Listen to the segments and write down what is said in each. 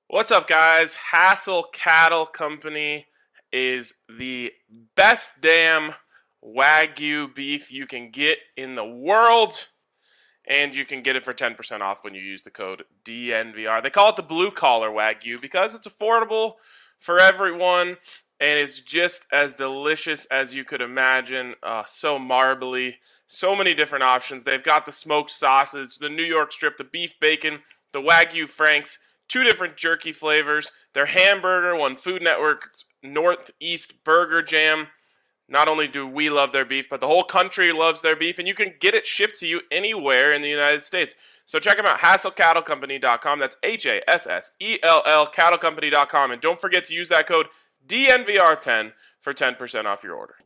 What's up, guys? Hassel Cattle Company is the best damn Wagyu beef you can get in the world, and you can get it for 10% off when you use the code DNVR. They call it the blue collar Wagyu because it's affordable for everyone, and it's just as delicious as you could imagine. So marbly, so many different options. They've got the smoked sausage, the New York strip, the beef bacon, the Wagyu Franks, 2 different jerky flavors, their hamburger won Food Network's Northeast Burger Jam. Not only do we love their beef, but the whole country loves their beef, and you can get it shipped to you anywhere in the United States. So check them out, HassellCattleCompany.com. That's HASSELL CattleCompany.com. And don't forget to use that code DNVR10 for 10% off your order.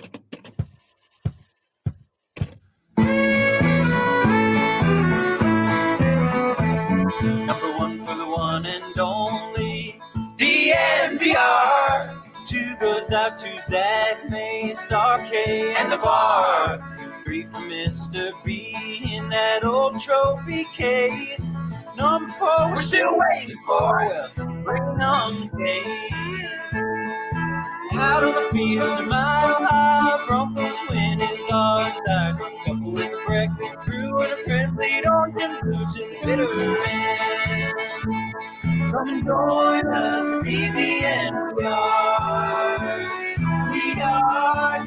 Number one for the one and only DNVR. 2 goes out to Zach Mace, RK, and the bar. 3 for Mr. B in that old trophy case. Number 4 we're still waiting for. Bring on the days. Out on the field, the Mile High Broncos win is ours. Couple with a breakfast crew and a friendly orange and blue to the bitter end. Come and join us, DNVR. We are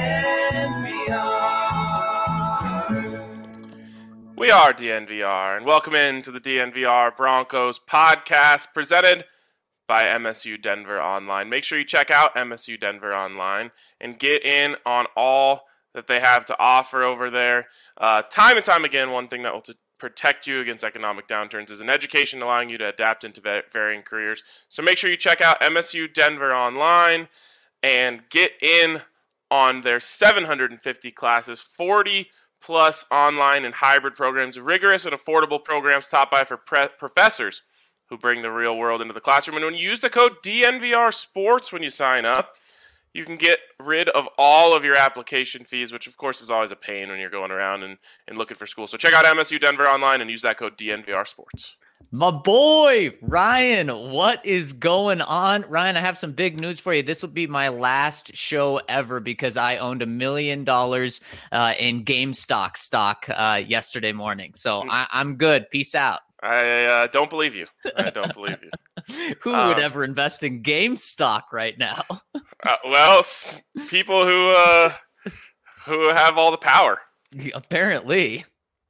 DNVR. We are DNVR, and welcome into the DNVR Broncos podcast presented by MSU Denver Online. Make sure you check out MSU Denver Online and get in on all that they have to offer over there. Time and time again, one thing that will protect you against economic downturns is an education allowing you to adapt into varying careers. So make sure you check out MSU Denver Online and get in on their 750 classes, 40 plus online and hybrid programs, rigorous and affordable programs taught by professors who bring the real world into the classroom. And when you use the code DNVR Sports when you sign up, you can get rid of all of your application fees, which of course is always a pain when you're going around and looking for school. So check out MSU Denver Online and use that code DNVR Sports. My boy, Ryan, what is going on? Ryan, I have some big news for you. This will be my last show ever because I owned $1 million in GameStop stock yesterday morning. So I'm good. Peace out. I don't believe you. I don't believe you. Who would ever invest in GameStop right now? Well, people who have all the power. Apparently.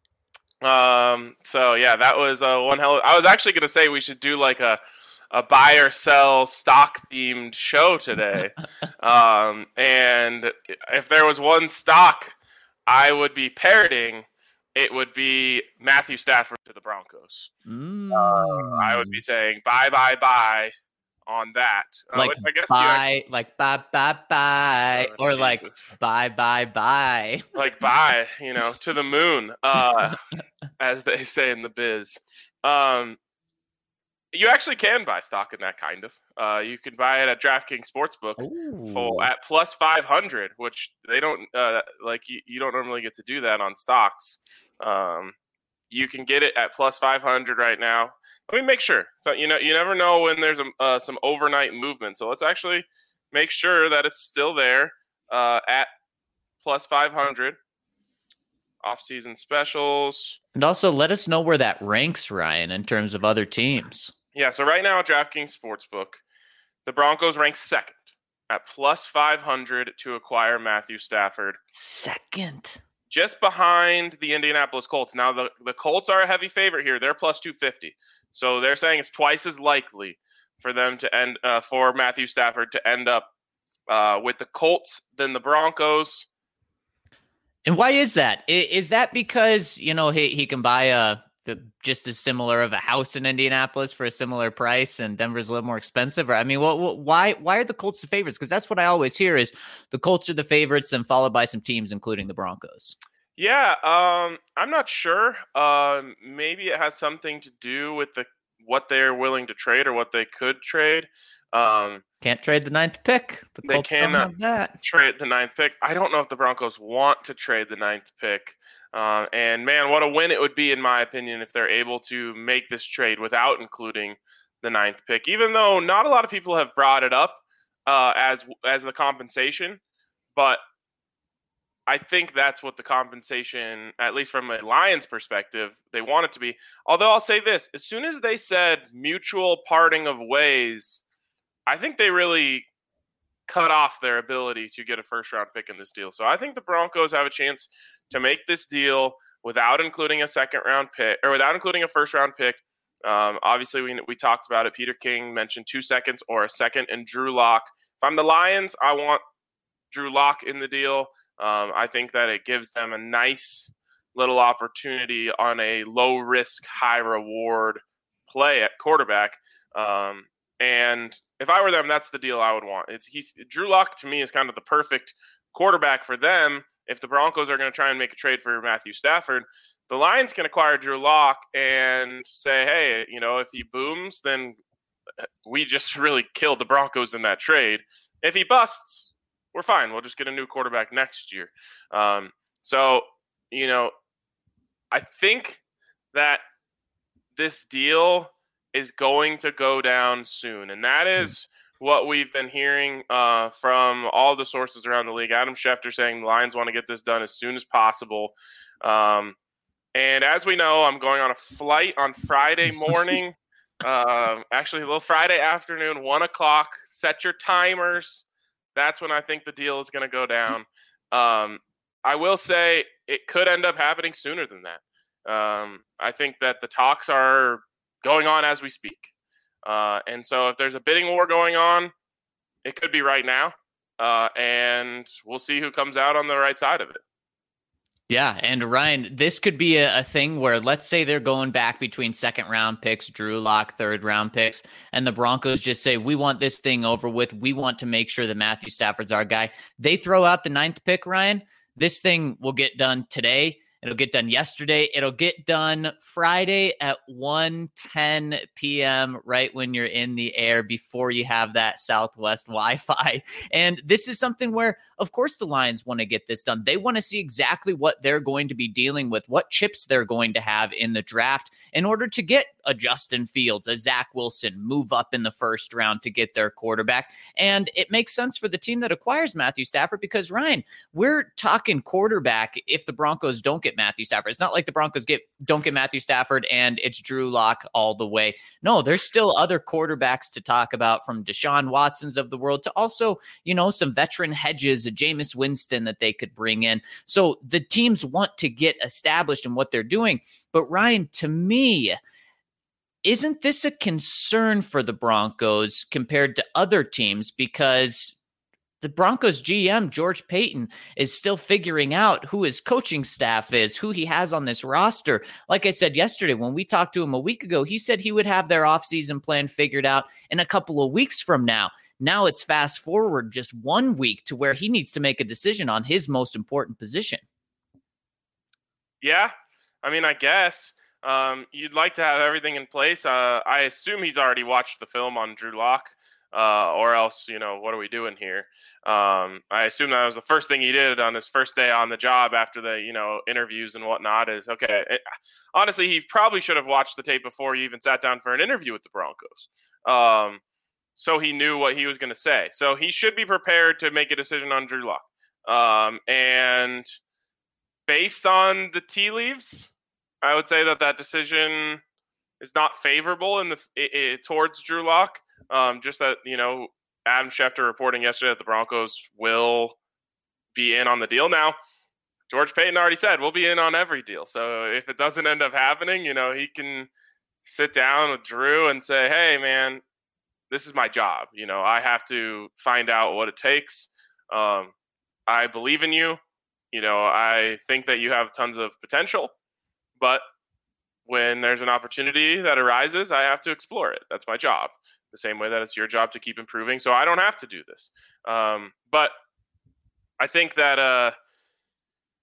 So yeah, that was one hell of, I was actually going to say we should do like a buy or sell stock themed show today. And if there was one stock I would be parroting, it would be Matthew Stafford to the Broncos. I would be saying buy on that. Like I guess buy, like buy, or Jesus. like buy. Like buy, to the moon, as they say in the biz. You actually can buy stock in that kind of. You can buy it at DraftKings Sportsbook at plus 500, which they don't you don't normally get to do that on stocks. You can get it at plus 500 right now. Let me make sure. So you never know when there's some overnight movement. So let's actually make sure that it's still there at plus 500. Off-season specials. And also let us know where that ranks, Ryan, in terms of other teams. Yeah, so right now at DraftKings Sportsbook, the Broncos rank second at plus 500 to acquire Matthew Stafford. Second. Just behind the Indianapolis Colts. Now, the Colts are a heavy favorite here. They're plus 250. So they're saying it's twice as likely for them to end for Matthew Stafford to end up with the Colts than the Broncos. And why is that? Is that because, he can buy just as similar of a house in Indianapolis for a similar price and Denver's a little more expensive? Or, why are the Colts the favorites? Because that's what I always hear is the Colts are the favorites and followed by some teams, including the Broncos. Yeah, I'm not sure. Maybe it has something to do with what they're willing to trade or what they could trade. Can't trade the 9th pick. They cannot trade the 9th pick. I don't know if the Broncos want to trade the 9th pick. And man, what a win it would be, in my opinion, if they're able to make this trade without including the ninth pick, even though not a lot of people have brought it up as the compensation. But I think that's what the compensation, at least from a Lions perspective, they want it to be. Although I'll say this, as soon as they said mutual parting of ways, I think they really cut off their ability to get a first-round pick in this deal. So I think the Broncos have a chance to make this deal without including a second-round pick, or without including a first-round pick. Obviously, we talked about it. Peter King mentioned 2 seconds or a second and Drew Lock. If I'm the Lions, I want Drew Lock in the deal. I think that it gives them a nice little opportunity on a low-risk, high-reward play at quarterback. And if I were them, that's the deal I would want. Drew Lock, to me, is kind of the perfect quarterback for them. If the Broncos are going to try and make a trade for Matthew Stafford, the Lions can acquire Drew Lock and say, hey, if he booms, then we just really killed the Broncos in that trade. If he busts, we're fine. We'll just get a new quarterback next year. So, I think that this deal is going to go down soon. And that is what we've been hearing from all the sources around the league. Adam Schefter saying the Lions want to get this done as soon as possible. And as we know, I'm going on a flight on Friday morning. Actually, a little Friday afternoon, 1 o'clock. Set your timers. That's when I think the deal is going to go down. I will say it could end up happening sooner than that. I think that the talks are going on as we speak. And so if there's a bidding war going on, it could be right now. And we'll see who comes out on the right side of it. Yeah, and Ryan, this could be a thing where, let's say they're going back between second-round picks, Drew Lock, third-round picks, and the Broncos just say, we want this thing over with. We want to make sure that Matthew Stafford's our guy. They throw out the 9th pick, Ryan. This thing will get done today. It'll get done yesterday. It'll get done Friday at 1:10 p.m., right when you're in the air before you have that Southwest Wi-Fi. And this is something where, of course, the Lions want to get this done. They want to see exactly what they're going to be dealing with, what chips they're going to have in the draft in order to get a Justin Fields, a Zach Wilson, move up in the first round to get their quarterback. And it makes sense for the team that acquires Matthew Stafford because, Ryan, we're talking quarterback if the Broncos don't get Matthew Stafford. It's not like the Broncos don't get Matthew Stafford and it's Drew Lock all the way. No, there's still other quarterbacks to talk about, from Deshaun Watsons of the world to also, some veteran hedges, a Jameis Winston that they could bring in. So the teams want to get established in what they're doing. But Ryan, to me, isn't this a concern for the Broncos compared to other teams? Because the Broncos GM, George Paton, is still figuring out who his coaching staff is, who he has on this roster. Like I said yesterday, when we talked to him a week ago, he said he would have their offseason plan figured out in a couple of weeks from now. Now it's fast forward just 1 week to where he needs to make a decision on his most important position. Yeah, I guess. You'd like to have everything in place. I assume he's already watched the film on Drew Lock, or else, what are we doing here? I assume that was the first thing he did on his first day on the job after the, interviews and whatnot is, okay. Honestly, he probably should have watched the tape before he even sat down for an interview with the Broncos. So he knew what he was going to say. So he should be prepared to make a decision on Drew Lock. And based on the tea leaves, I would say that decision is not favorable towards Drew Lock. Just that, Adam Schefter reporting yesterday that the Broncos will be in on the deal. Now, George Paton already said we'll be in on every deal. So if it doesn't end up happening, he can sit down with Drew and say, hey, man, this is my job. I have to find out what it takes. I believe in you. I think that you have tons of potential. But when there's an opportunity that arises, I have to explore it. That's my job. The same way that it's your job to keep improving. So I don't have to do this. But I think that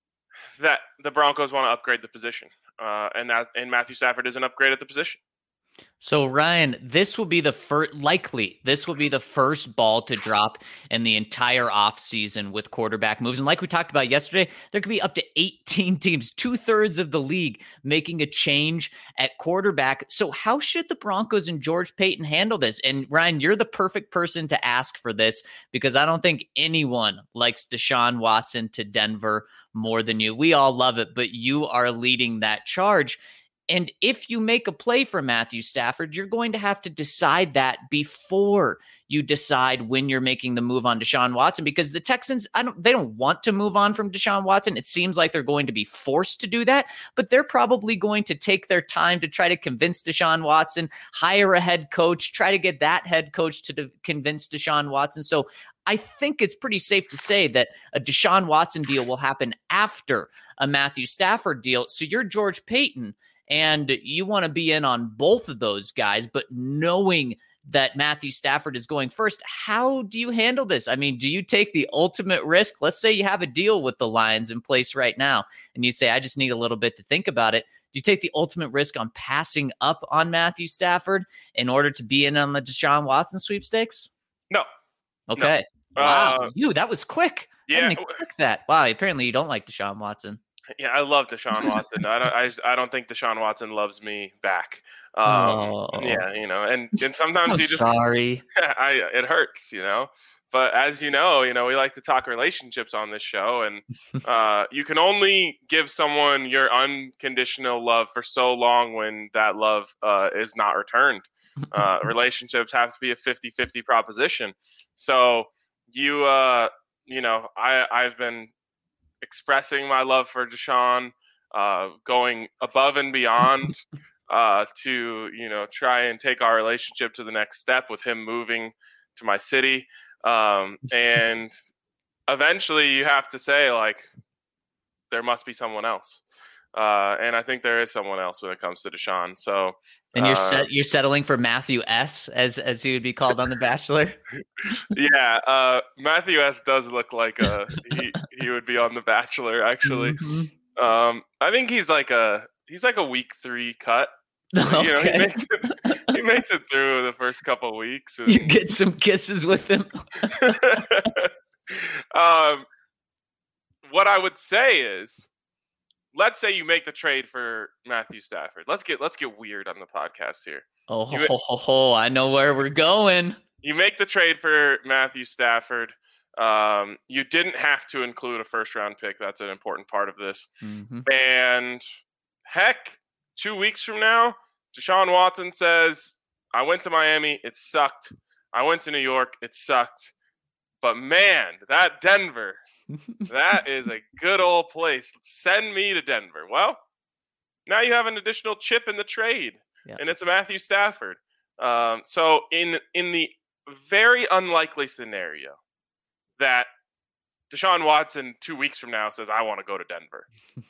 that the Broncos want to upgrade the position. And Matthew Stafford is an upgrade at the position. So Ryan, this will be the first ball to drop in the entire offseason with quarterback moves. And like we talked about yesterday, there could be up to 18 teams, 2/3 of the league, making a change at quarterback. So how should the Broncos and George Paton handle this? And Ryan, you're the perfect person to ask for this because I don't think anyone likes Deshaun Watson to Denver more than you. We all love it, but you are leading that charge. And if you make a play for Matthew Stafford, you're going to have to decide that before you decide when you're making the move on Deshaun Watson, because the Texans, they don't want to move on from Deshaun Watson. It seems like they're going to be forced to do that, but they're probably going to take their time to try to convince Deshaun Watson, hire a head coach, try to get that head coach to convince Deshaun Watson. So I think it's pretty safe to say that a Deshaun Watson deal will happen after a Matthew Stafford deal. So you're George Paton, and you want to be in on both of those guys, but knowing that Matthew Stafford is going first, how do you handle this? I mean, do you take the ultimate risk? Let's say you have a deal with the Lions in place right now, and you say, I just need a little bit to think about it. Do you take the ultimate risk on passing up on Matthew Stafford in order to be in on the Deshaun Watson sweepstakes? No. Okay. No. Wow. That was quick. Yeah. I didn't expect that. Wow. Apparently you don't like Deshaun Watson. Yeah, I love Deshaun Watson. I don't think Deshaun Watson loves me back. Yeah, and sometimes I'm you just sorry. It hurts, But as you know, we like to talk relationships on this show, and you can only give someone your unconditional love for so long when that love is not returned. Relationships have to be a 50-50 proposition. So I've been expressing my love for Deshaun, going above and beyond to try and take our relationship to the next step with him moving to my city, and eventually you have to say, like, there must be someone else, and I think there is someone else when it comes to Deshaun. So and you're settling for Matthew S, as he would be called on The Bachelor. Yeah, Matthew S does look like he would be on The Bachelor, actually. Mm-hmm. I think he's like a week 3 cut. Okay. He makes it through the first couple of weeks. And you get some kisses with him. What I would say is, let's say you make the trade for Matthew Stafford. Let's get weird on the podcast here. I know where we're going. You make the trade for Matthew Stafford. You didn't have to include a first-round pick. That's an important part of this. Mm-hmm. And heck, 2 weeks from now, Deshaun Watson says, I went to Miami, it sucked. I went to New York, it sucked. But man, that Denver, that is a good old place. Send me to Denver. Well, now you have an additional chip in the trade, and it's a Matthew Stafford. So in the very unlikely scenario that Deshaun Watson 2 weeks from now says, I want to go to Denver,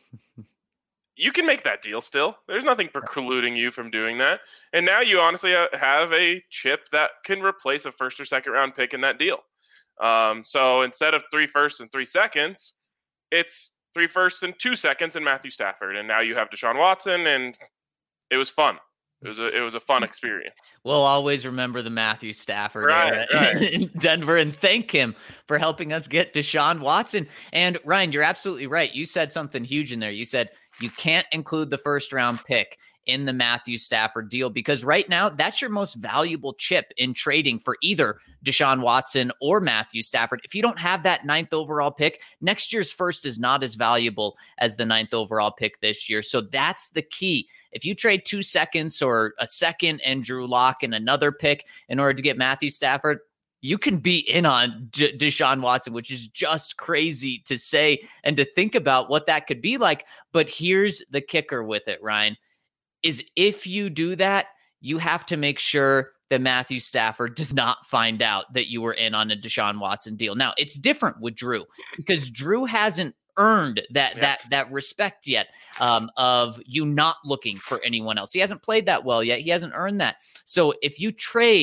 you can make that deal still. There's nothing precluding you from doing that. And now you honestly have a chip that can replace a first or second round pick in that deal. So instead of 3 firsts and 3 seconds, it's 3 firsts and 2 seconds in Matthew Stafford. And now you have Deshaun Watson, and it was fun. It was a fun experience. We'll always remember the Matthew Stafford era in Denver and thank him for helping us get Deshaun Watson. And Ryan, you're absolutely right. You said something huge in there. You said you can't include the first round pick in the Matthew Stafford deal because right now that's your most valuable chip in trading for either Deshaun Watson or Matthew Stafford. If you don't have that 9th overall pick, next year's first is not as valuable as the 9th overall pick this year. So that's the key. If you trade 2 seconds or a second and Drew Lock and another pick in order to get Matthew Stafford, you can be in on Deshaun Watson, which is just crazy to say and to think about what that could be like. But here's the kicker with it, Ryan, is if you do that, you have to make sure that Matthew Stafford does not find out that you were in on a Deshaun Watson deal. Now, it's different with Drew because Drew hasn't earned that respect yet of you not looking for anyone else. He hasn't played that well yet. He hasn't earned that. So if you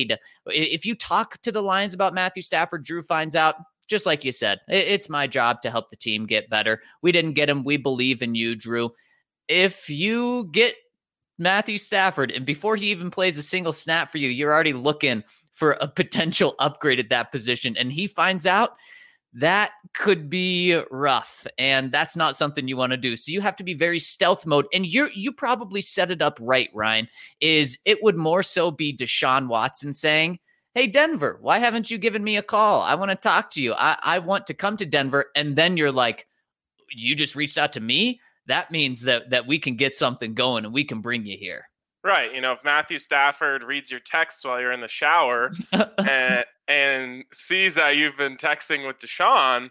talk to the Lions about Matthew Stafford, Drew finds out, just like you said, it's my job to help the team get better. We didn't get him. We believe in you, Drew. If you get Matthew Stafford, and before he even plays a single snap for you, you're already looking for a potential upgrade at that position. And he finds out, that could be rough. And that's not something you want to do. So you have to be very stealth mode. And you probably set it up right, Ryan, is it would more so be Deshaun Watson saying, hey, Denver, why haven't you given me a call? I want to talk to you. I want to come to Denver. And then you're like, you just reached out to me? That means that we can get something going and we can bring you here. Right. If Matthew Stafford reads your texts while you're in the shower and sees that you've been texting with Deshaun,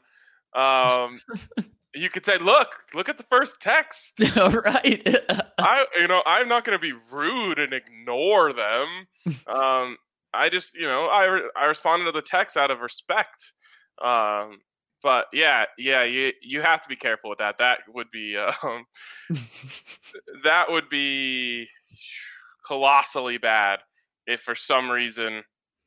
you could say, look at the first text. Right. I'm not going to be rude and ignore them. I just, I responded to the text out of respect. But yeah, you have to be careful with that. That would be colossally bad if for some reason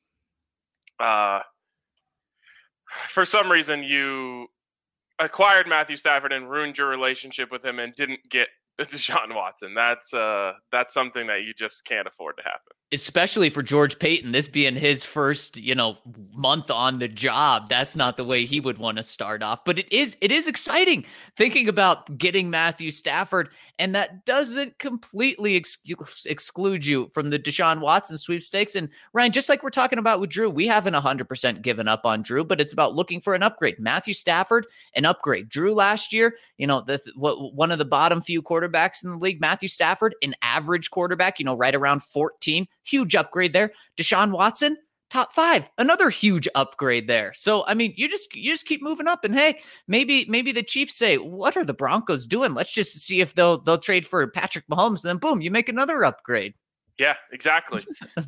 you acquired Matthew Stafford and ruined your relationship with him and didn't get Deshaun Watson. That's something that you just can't afford to happen. Especially for George Paton, this being his first, month on the job. That's not the way he would want to start off. But it is exciting thinking about getting Matthew Stafford, and that doesn't completely exclude you from the Deshaun Watson sweepstakes. And Ryan, just like we're talking about with Drew, we haven't 100% given up on Drew, but it's about looking for an upgrade. Matthew Stafford, an upgrade. Drew last year, one of the bottom few quarterbacks in the league. Matthew Stafford, an average quarterback, right around 14. Huge upgrade there. Deshaun Watson, top 5, another huge upgrade there. So, I mean, you just keep moving up, and hey, maybe the Chiefs say, what are the Broncos doing? Let's just see if they'll trade for Patrick Mahomes, and then boom, you make another upgrade. Yeah, exactly.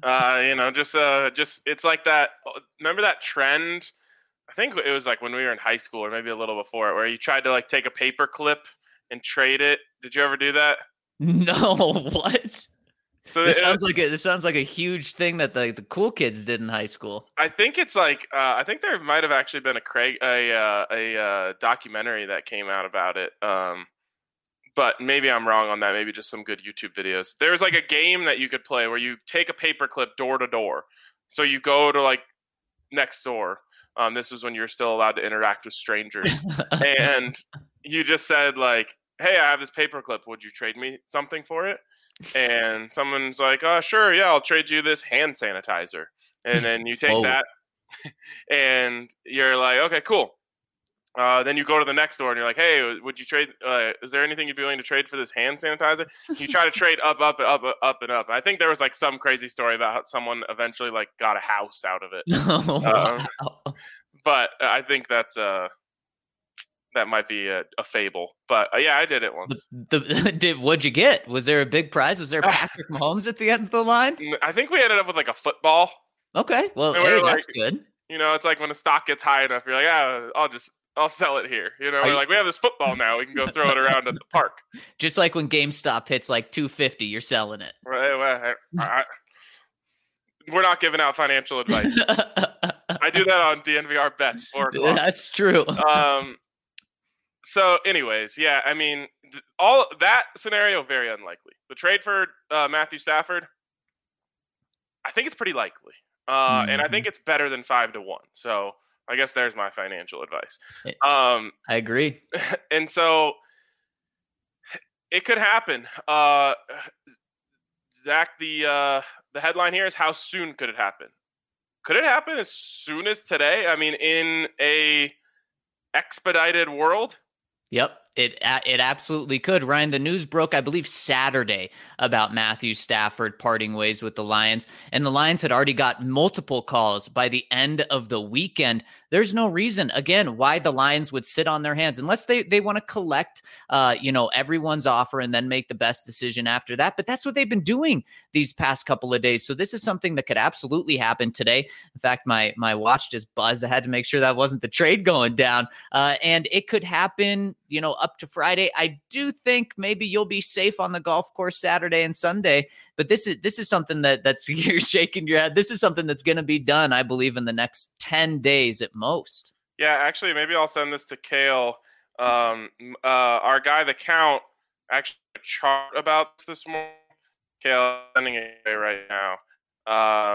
Just it's like that. Remember that trend? I think it was like when we were in high school, or maybe a little before it, where you tried to like take a paper clip and trade it. Did you ever do that? No, what? So this sounds like a huge thing that the cool kids did in high school. I think it's like I think there might have actually been a documentary that came out about it. But maybe I'm wrong on that. Maybe just some good YouTube videos. There was like a game that you could play where you take a paperclip door to door. So you go to like next door. This was when you're still allowed to interact with strangers, and you just said like, "Hey, I have this paperclip. Would you trade me something for it?" And someone's like, "Oh, sure, yeah, I'll trade you this hand sanitizer." And then you take that, and you're like, "Okay, cool." Then you go to the next door, and you're like, "Hey, would you trade? Is there anything you'd be willing to trade for this hand sanitizer?" You try to trade up, and up. I think there was like some crazy story about how someone eventually like got a house out of it. Wow. But I think that's that might be a fable. But yeah, I did it once. What'd you get? Was there a big prize? Was there Patrick Mahomes at the end of the line? I think we ended up with like a football. Okay, well, hey, that's good. It's like when a stock gets high enough, you're like, I'll sell it here. We're like, we have this football now. We can go throw it around at the park. Just like when GameStop hits like $250, you're selling it. Right. We're not giving out financial advice. I do that on DNVR bets. 4 o'clock. That's true. So anyways, yeah, I mean, all that scenario, very unlikely. The trade for Matthew Stafford, I think it's pretty likely. And I think it's better than 5-1. So I guess there's my financial advice. I agree. And so it could happen. Zach, the headline here is, how soon could it happen? Could it happen as soon as today? I mean, in a expedited world? Yep, it absolutely could. Ryan, the news broke, I believe, Saturday about Matthew Stafford parting ways with the Lions, and the Lions had already got multiple calls by the end of the weekend. There's no reason, again, why the Lions would sit on their hands unless they want to collect, everyone's offer and then make the best decision after that. But that's what they've been doing these past couple of days. So this is something that could absolutely happen today. In fact, my watch just buzzed. I had to make sure that wasn't the trade going down. And it could happen, up to Friday. I do think maybe you'll be safe on the golf course Saturday and Sunday. But this is something that's you're shaking your head. This is something that's going to be done, I believe, in the next 10 days at most. Yeah, actually, maybe I'll send this to Kale. Our guy, The Count, actually a chart about this morning. Kale, sending it away right now.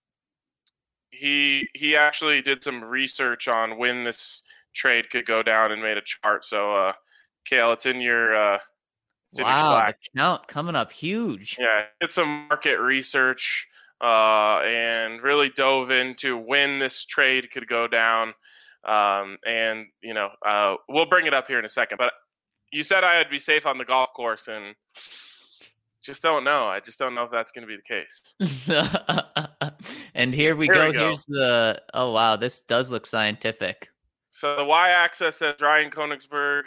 He actually did some research on when this trade could go down and made a chart. So, Kale, it's in your Wow, the Slack. count coming up huge. Yeah, did some market research and really dove into when this trade could go down. And we'll bring it up here in a second. But you said I'd be safe on the golf course, and just don't know. I just don't know if that's going to be the case. And here we go. Here's the. Oh wow, this does look scientific. So the y-axis says Ryan Koenigsberg.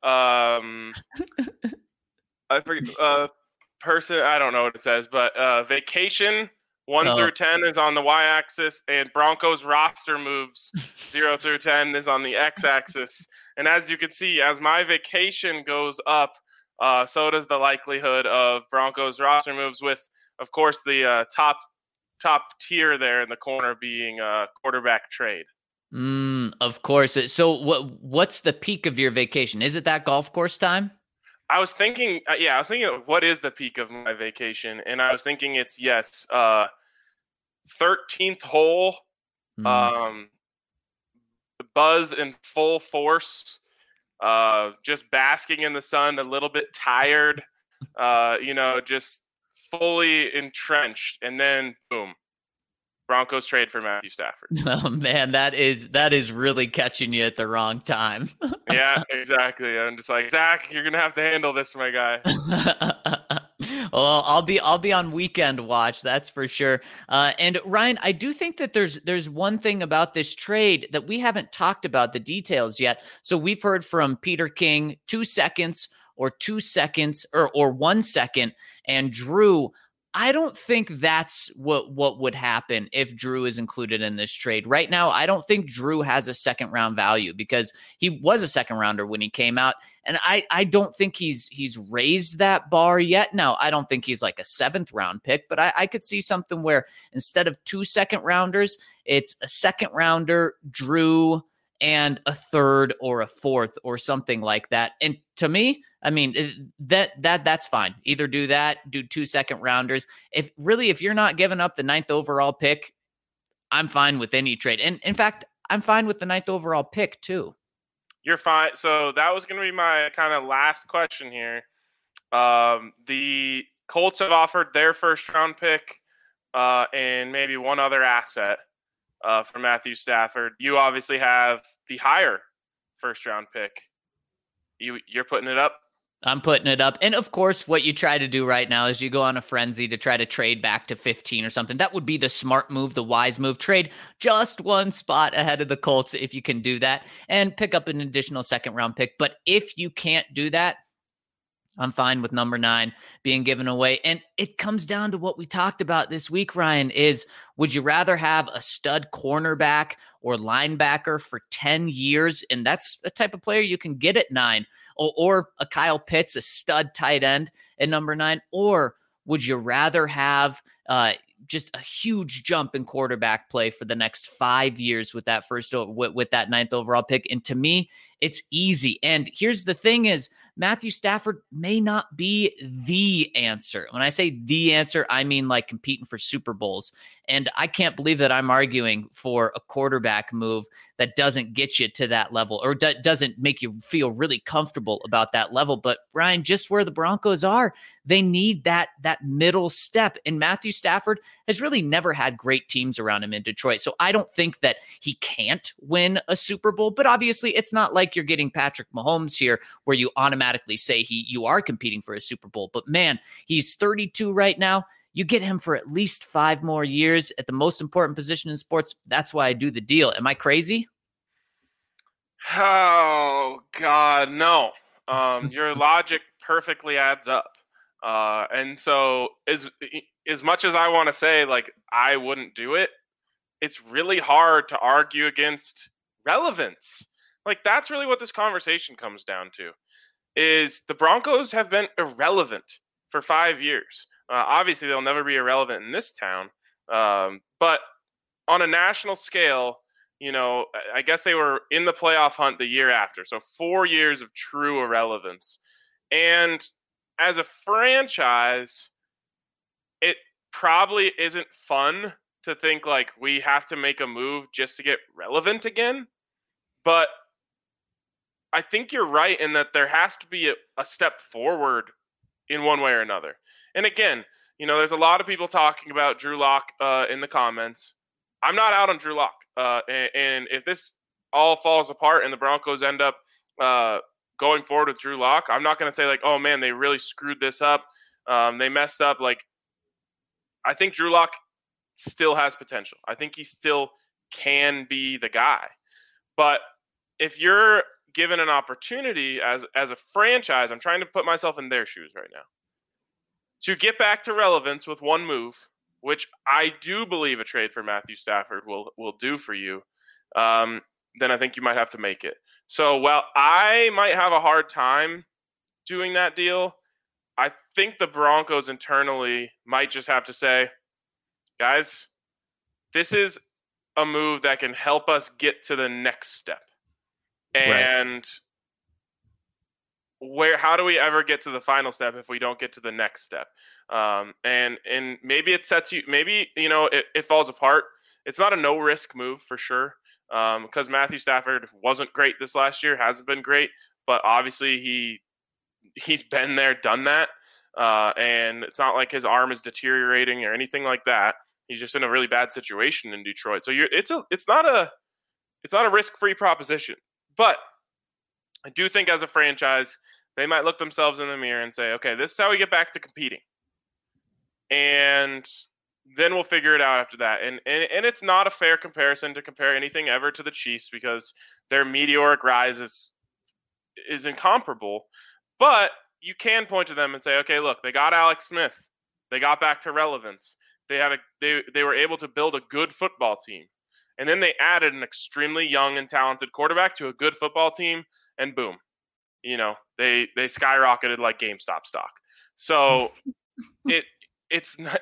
I forget, person. I don't know what it says, but vacation 1 through 10 is on the y-axis, and Broncos roster moves 0 through 10 is on the x-axis. And as you can see, as my vacation goes up, so does the likelihood of Broncos roster moves, with, of course, the top tier there in the corner being a quarterback trade. Of course. So what's the peak of your vacation? Is it that golf course time? I was thinking, what is the peak of my vacation? And I was thinking it's 13th hole, buzz in full force, just basking in the sun, a little bit tired, just fully entrenched, and then boom, Broncos trade for Matthew Stafford. Oh man, that is really catching you at the wrong time. Yeah, exactly. I'm just like, Zach, you're gonna have to handle this, my guy. Well, I'll be on weekend watch, that's for sure. And Ryan, I do think that there's one thing about this trade that we haven't talked about the details yet. So we've heard from Peter King 2 seconds or 2 seconds or 1 second, and Drew. I don't think that's what would happen if Drew is included in this trade. Right now, I don't think Drew has a second round value because he was a second rounder when he came out. And I don't think he's raised that bar yet. Now, I don't think he's like a 7th round pick, but I could see something where instead of 2 second rounders, it's a second rounder, Drew, and a 3rd or a 4th or something like that. And to me, I mean, that's fine. Either do that, do 2 second rounders. If you're not giving up the 9th overall pick, I'm fine with any trade. And in fact, I'm fine with the 9th overall pick too. You're fine. So that was going to be my kind of last question here. The Colts have offered their 1st round pick and maybe one other asset for Matthew Stafford. You obviously have the higher 1st round pick. You're putting it up? I'm putting it up. And of course, what you try to do right now is you go on a frenzy to try to trade back to 15 or something. That would be the smart move, the wise move. Trade just 1 spot ahead of the Colts if you can do that and pick up an additional 2nd round pick. But if you can't do that, I'm fine with number 9 being given away. And it comes down to what we talked about this week, Ryan, is would you rather have a stud cornerback or linebacker for 10 years? And that's a type of player you can get at 9. Or a Kyle Pitts, a stud tight end at number 9? Or would you rather have just a huge jump in quarterback play for the next 5 years with that with that 9th overall pick? And to me, it's easy. And here's the thing is Matthew Stafford may not be the answer. When I say the answer, I mean like competing for Super Bowls. And I can't believe that I'm arguing for a quarterback move that doesn't get you to that level or doesn't make you feel really comfortable about that level. But Ryan, just where the Broncos are, they need that middle step. And Matthew Stafford has really never had great teams around him in Detroit. So I don't think that he can't win a Super Bowl. But obviously, it's not like you're getting Patrick Mahomes here where you automatically say you are competing for a Super Bowl. But man, he's 32 right now. You get him for at least 5 more years at the most important position in sports. That's why I do the deal. Am I crazy? Oh, God, no. Your logic perfectly adds up. And so as much as I want to say, like, I wouldn't do it, it's really hard to argue against relevance. Like, that's really what this conversation comes down to, is the Broncos have been irrelevant for 5 years. Obviously, they'll never be irrelevant in this town. But on a national scale, I guess they were in the playoff hunt the year after. So 4 years of true irrelevance. And as a franchise, it probably isn't fun to think like we have to make a move just to get relevant again. But I think you're right in that there has to be a step forward in one way or another. And again, there's a lot of people talking about Drew Lock in the comments. I'm not out on Drew Lock. And if this all falls apart and the Broncos end up going forward with Drew Lock, I'm not going to say like, oh man, they really screwed this up. They messed up. Like, I think Drew Lock still has potential. I think he still can be the guy. But if you're given an opportunity as a franchise, I'm trying to put myself in their shoes right now, to get back to relevance with one move, which I do believe a trade for Matthew Stafford will do for you, then I think you might have to make it. So while I might have a hard time doing that deal, I think the Broncos internally might just have to say, guys, this is a move that can help us get to the next step. And how do we ever get to the final step if we don't get to the next step? And maybe it sets you, maybe, it falls apart. It's not a no risk move for sure. Because Matthew Stafford wasn't great this last year, hasn't been great, but obviously he's been there, done that. And it's not like his arm is deteriorating or anything like that. He's just in a really bad situation in Detroit. So it's not a risk-free proposition. But I do think as a franchise, they might look themselves in the mirror and say, okay, this is how we get back to competing. And then we'll figure it out after that. And it's not a fair comparison to compare anything ever to the Chiefs because their meteoric rise is incomparable. But you can point to them and say, okay, look, they got Alex Smith. They got back to relevance. They were able to build a good football team. And then they added an extremely young and talented quarterback to a good football team, and boom, they skyrocketed like GameStop stock. So it's not.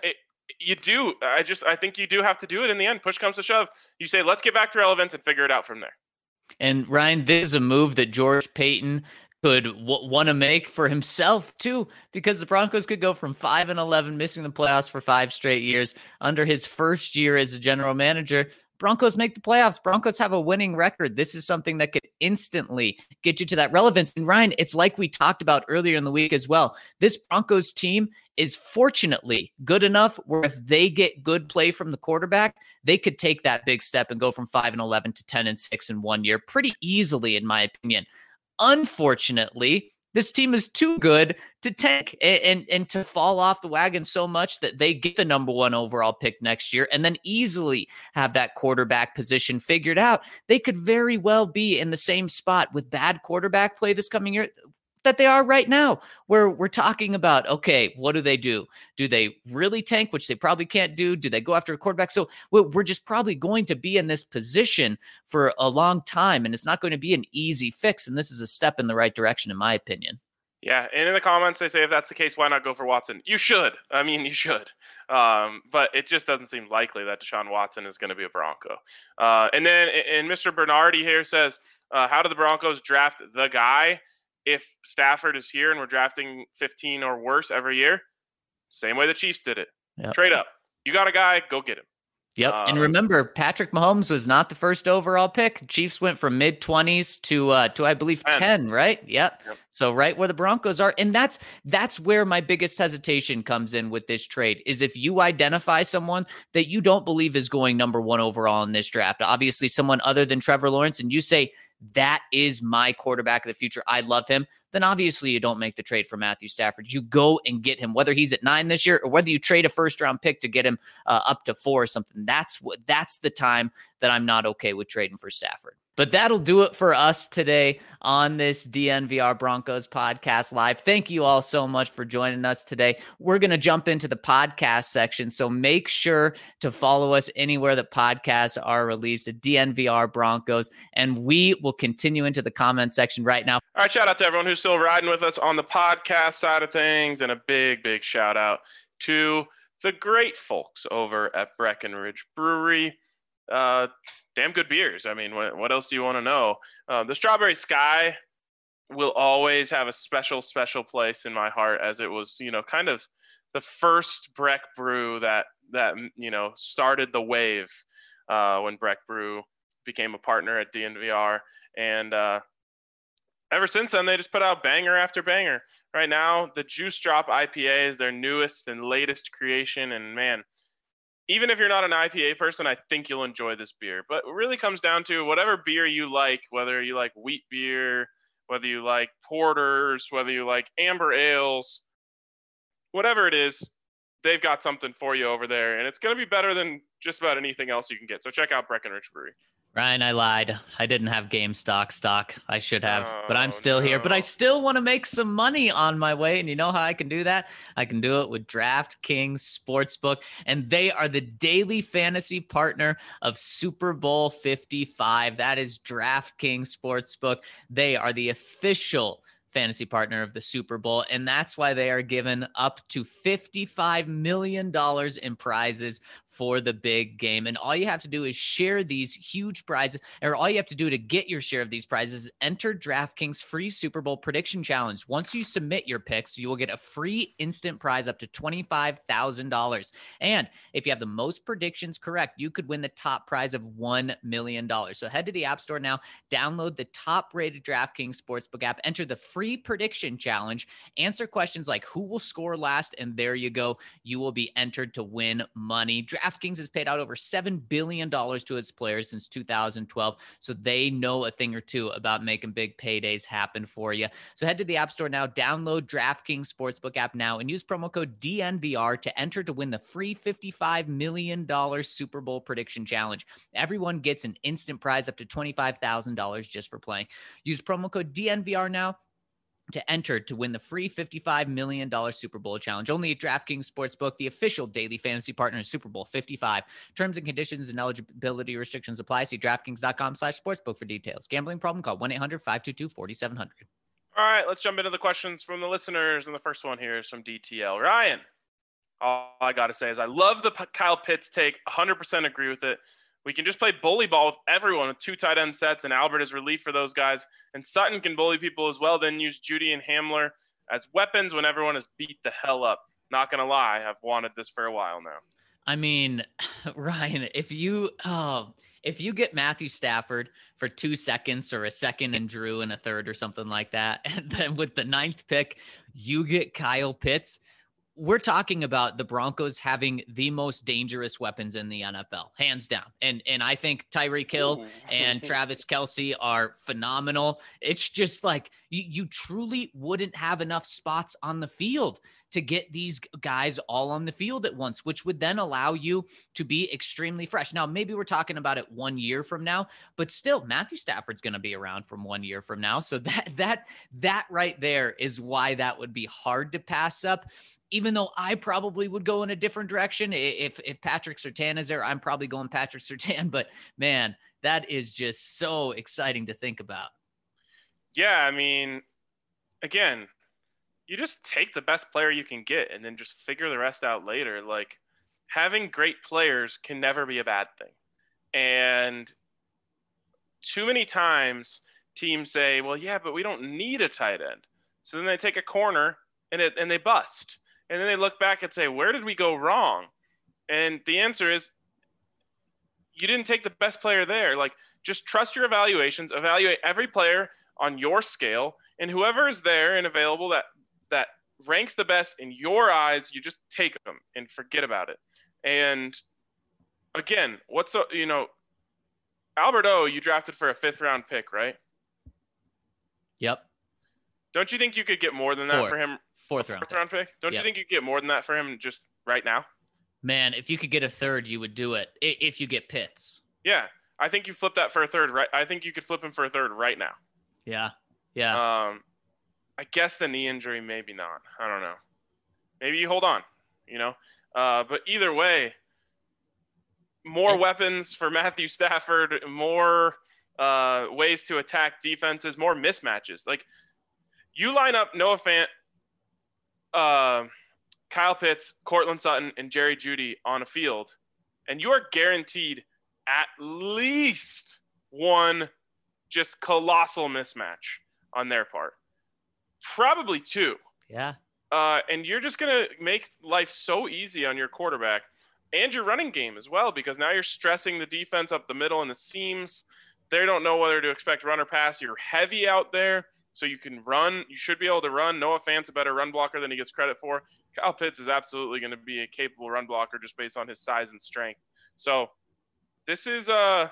I think you do have to do it in the end. Push comes to shove. You say, let's get back to relevance and figure it out from there. And Ryan, this is a move that George Paton could want to make for himself too, because the Broncos could go from 5-11, missing the playoffs for 5 straight years. Under his first year as a general manager, Broncos make the playoffs. Broncos have a winning record. This is something that could instantly get you to that relevance. And Ryan, it's like we talked about earlier in the week as well. This Broncos team is fortunately good enough where if they get good play from the quarterback, they could take that big step and go from 5-11 to 10-6 in 1 year pretty easily, in my opinion. Unfortunately, this team is too good to tank and to fall off the wagon so much that they get the number 1 overall pick next year and then easily have that quarterback position figured out. They could very well be in the same spot with bad quarterback play this coming year that they are right now, where we're talking about, okay, what do they do? Do they really tank, which they probably can't do? Do they go after a quarterback? So we're just probably going to be in this position for a long time, and it's not going to be an easy fix, and this is a step in the right direction, in my opinion. Yeah, and in the comments, they say if that's the case, why not go for Watson? You should. I mean, you should. But it just doesn't seem likely that Deshaun Watson is going to be a Bronco. And Mr. Bernardi here says, how do the Broncos draft the guy? If Stafford is here and we're drafting 15 or worse every year, same way the Chiefs did it. Yep. Trade up. You got a guy, go get him. Yep. And remember, Patrick Mahomes was not the first overall pick. The Chiefs went from mid-20s to I believe 10, right? Yep. So right where the Broncos are. And that's where my biggest hesitation comes in with this trade is if you identify someone that you don't believe is going number 1 overall in this draft, obviously someone other than Trevor Lawrence, and you say, that is my quarterback of the future, I love him, then obviously you don't make the trade for Matthew Stafford. You go and get him, whether he's at 9 this year or whether you trade a first-round pick to get him up to 4 or something. That's the time that I'm not okay with trading for Stafford. But that'll do it for us today on this DNVR Broncos podcast live. Thank you all so much for joining us today. We're going to jump into the podcast section, so make sure to follow us anywhere that podcasts are released at DNVR Broncos, and we will continue into the comment section right now. All right, shout out to everyone who's still riding with us on the podcast side of things, and a big, big shout out to the great folks over at Breckenridge Brewery. Damn good beers. I mean, what else do you want to know? The Strawberry Sky will always have a special, special place in my heart, as it was, kind of the first Breck Brew that started the wave when Breck Brew became a partner at DNVR, and ever since then they just put out banger after banger. Right now, the Juice Drop IPA is their newest and latest creation, and man, even if you're not an IPA person, I think you'll enjoy this beer. But it really comes down to whatever beer you like, whether you like wheat beer, whether you like porters, whether you like amber ales, whatever it is, they've got something for you over there. And it's going to be better than just about anything else you can get. So check out Breckenridge Brewery. Ryan, I lied. I didn't have GameStop stock. I should have, but I'm still no. here. But I still want to make some money on my way. And you know how I can do that? I can do it with DraftKings Sportsbook. And they are the daily fantasy partner of Super Bowl 55. That is DraftKings Sportsbook. They are the official fantasy partner of the Super Bowl, and that's why they are given up to $55 million in prizes for the big game. And all you have to do is share these huge prizes, or all you have to do to get your share of these prizes is enter DraftKings free Super Bowl prediction challenge. Once you submit your picks, you will get a free instant prize up to $25,000. And if you have the most predictions correct, you could win the top prize of $1 million. So head to the App Store now, download the top-rated DraftKings Sportsbook app, enter the free prediction challenge, answer questions like who will score last, and there you go. You will be entered to win money. DraftKings has paid out over $7 billion to its players since 2012, so they know a thing or two about making big paydays happen for you. So head to the App Store now, download DraftKings Sportsbook app now, and use promo code DNVR to enter to win the free $55 million Super Bowl prediction challenge. Everyone gets an instant prize up to $25,000 just for playing. Use promo code DNVR now to enter to win the free $55 million Super Bowl challenge. Only at DraftKings Sportsbook, the official daily fantasy partner of Super Bowl 55. Terms and conditions and eligibility restrictions apply. See DraftKings.com/sportsbook for details. Gambling problem? Call 1-800-522-4700. All right, let's jump into the questions from the listeners. And the first one here is from DTL. Ryan, all I got to say is I love the Kyle Pitts take. 100% agree with it. We can just play bully ball with everyone with 2 tight end sets, and Albert is relief for those guys. And Sutton can bully people as well, then use Judy and Hamler as weapons when everyone is beat the hell up. Not going to lie, I've wanted this for a while now. I mean, Ryan, if you get Matthew Stafford for 2 seconds or a second and Drew in a third or something like that, and then with the 9th pick, you get Kyle Pitts, we're talking about the Broncos having the most dangerous weapons in the NFL, hands down. And I think Tyreek Hill and Travis Kelce are phenomenal. It's just like you truly wouldn't have enough spots on the field to get these guys all on the field at once, which would then allow you to be extremely fresh. Now, maybe we're talking about it 1 year from now, but still Matthew Stafford's going to be around from 1 year from now. So that right there is why that would be hard to pass up. Even though I probably would go in a different direction. If Patrick Surtain is there, I'm probably going Patrick Surtain. But, man, that is just so exciting to think about. Yeah, I mean, again, you just take the best player you can get and then just figure the rest out later. Like, having great players can never be a bad thing. And too many times teams say, well, yeah, but we don't need a tight end. So then they take a corner and they bust. And then they look back and say, where did we go wrong? And the answer is you didn't take the best player there. Like, just trust your evaluations, evaluate every player on your scale, and whoever is there and available that ranks the best in your eyes, you just take them and forget about it. And again, Albert O, you drafted for a 5th round pick, right? Yep. Don't you think you could get more than that for him? 4th round pick. Don't you think you could get more than that for him just right now? Man, if you could get a 3rd, you would do it. If you get Pitts. Yeah, I think you flip that for a 3rd, right? I think you could flip him for a 3rd right now. Yeah. I guess the knee injury, maybe not. I don't know. Maybe you hold on. But either way, more weapons for Matthew Stafford, more ways to attack defenses, more mismatches. Like, you line up Noah Fant, Kyle Pitts, Cortland Sutton, and Jerry Jeudy on a field, and you are guaranteed at least one just colossal mismatch on their part. Probably 2. Yeah. And you're just going to make life so easy on your quarterback and your running game as well, because now you're stressing the defense up the middle and the seams. They don't know whether to expect run or pass. You're heavy out there, so you can run. You should be able to run. Noah Fant's a better run blocker than he gets credit for. Kyle Pitts is absolutely going to be a capable run blocker just based on his size and strength. So this is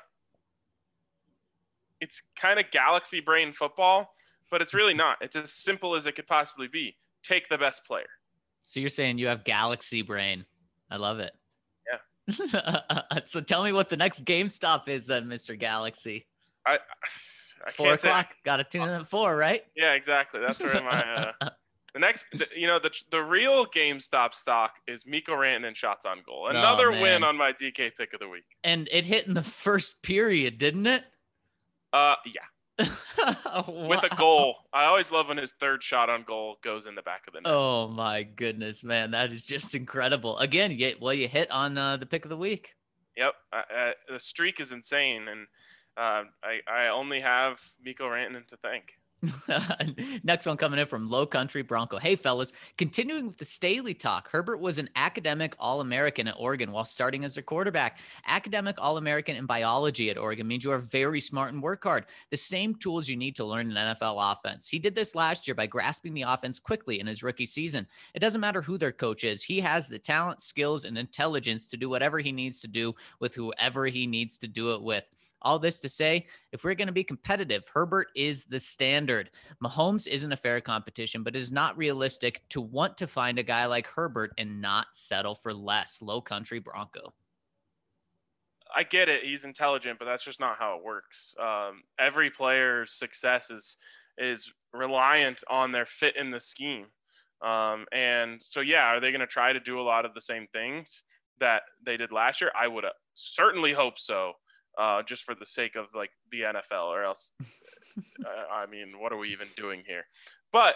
it's kind of galaxy brain football, but it's really not. It's as simple as it could possibly be. Take the best player. So you're saying you have galaxy brain. I love it. Yeah. So tell me what the next GameStop is then, Mr. Galaxy. I 4 o'clock. Got to tune in at 4, right? Yeah, exactly. That's where my the next, the real GameStop stock is Miko Rantanen and shots on goal. Another win on my DK pick of the week. And it hit in the first period, didn't it? Yeah. Wow. With a goal. I always love when his third shot on goal goes in the back of the net. Oh my goodness, man. That is just incredible. Again, you hit on the pick of the week. Yep. The streak is insane. And I only have Miko Rantanen to thank. Next one coming in from Low Country Bronco. Hey, fellas, continuing with the Staley talk, Herbert was an academic All-American at Oregon while starting as a quarterback. Academic All-American in biology at Oregon means you are very smart and work hard. The same tools you need to learn an NFL offense. He did this last year by grasping the offense quickly in his rookie season. It doesn't matter who their coach is. He has the talent, skills, and intelligence to do whatever he needs to do with whoever he needs to do it with. All this to say, if we're going to be competitive, Herbert is the standard. Mahomes isn't a fair competition, but it is not realistic to want to find a guy like Herbert and not settle for less. Low Country Bronco. I get it. He's intelligent, but that's just not how it works. Every player's success is reliant on their fit in the scheme. And so, yeah, are they going to try to do a lot of the same things that they did last year? I would certainly hope so. Just for the sake of like the NFL, or else, I mean, what are we even doing here? But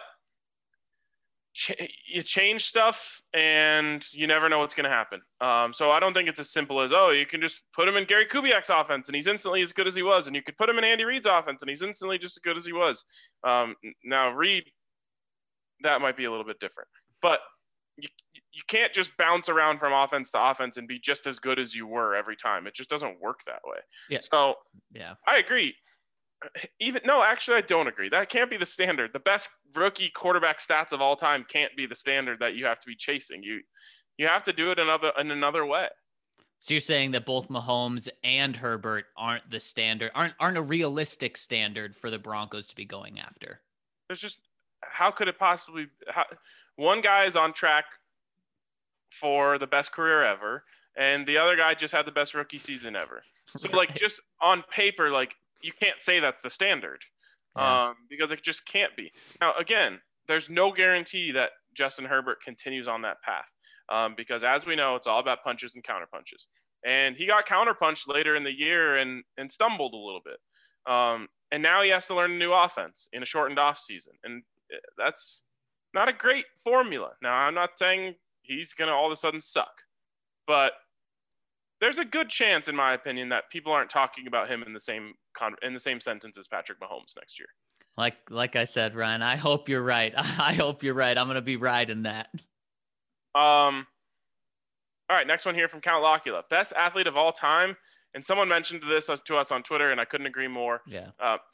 you change stuff and you never know what's going to happen. So I don't think it's as simple as, you can just put him in Gary Kubiak's offense and he's instantly as good as he was. And you could put him in Andy Reid's offense and he's instantly just as good as he was. Now Reid, that might be a little bit different, but you can't just bounce around from offense to offense and be just as good as you were every time. It just doesn't work that way. Yeah. So yeah, I agree. Actually, I don't agree. That can't be the standard. The best rookie quarterback stats of all time can't be the standard that you have to be chasing. You have to do it in another way. So you're saying that both Mahomes and Herbert aren't the standard, aren't a realistic standard for the Broncos to be going after. There's just, how could it possibly? One guy is on track for the best career ever, and the other guy just had the best rookie season ever. So, right. Just on paper, you can't say that's the standard, because it just can't be. Now, again, there's no guarantee that Justin Herbert continues on that path, because as we know, it's all about punches and counterpunches. And he got counterpunched later in the year and stumbled a little bit. And now he has to learn a new offense in a shortened off season, and that's not a great formula. Now, I'm not saying he's going to all of a sudden suck, but there's a good chance, in my opinion, that people aren't talking about him in the same sentence as Patrick Mahomes next year. Like I said, Ryan, I hope you're right. I hope you're right. I'm going to be right in that. All right, next one here from Count Locula. Best athlete of all time. And someone mentioned this to us on Twitter, and I couldn't agree more. Yeah.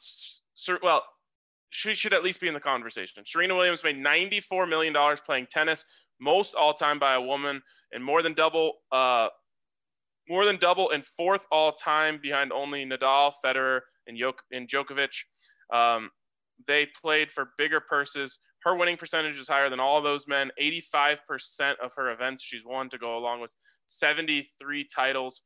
She should at least be in the conversation. Serena Williams made $94 million playing tennis, most all-time by a woman, and more than double and fourth all-time behind only Nadal, Federer, and Djokovic. They played for bigger purses. Her winning percentage is higher than all those men. 85% of her events she's won, to go along with 73 titles.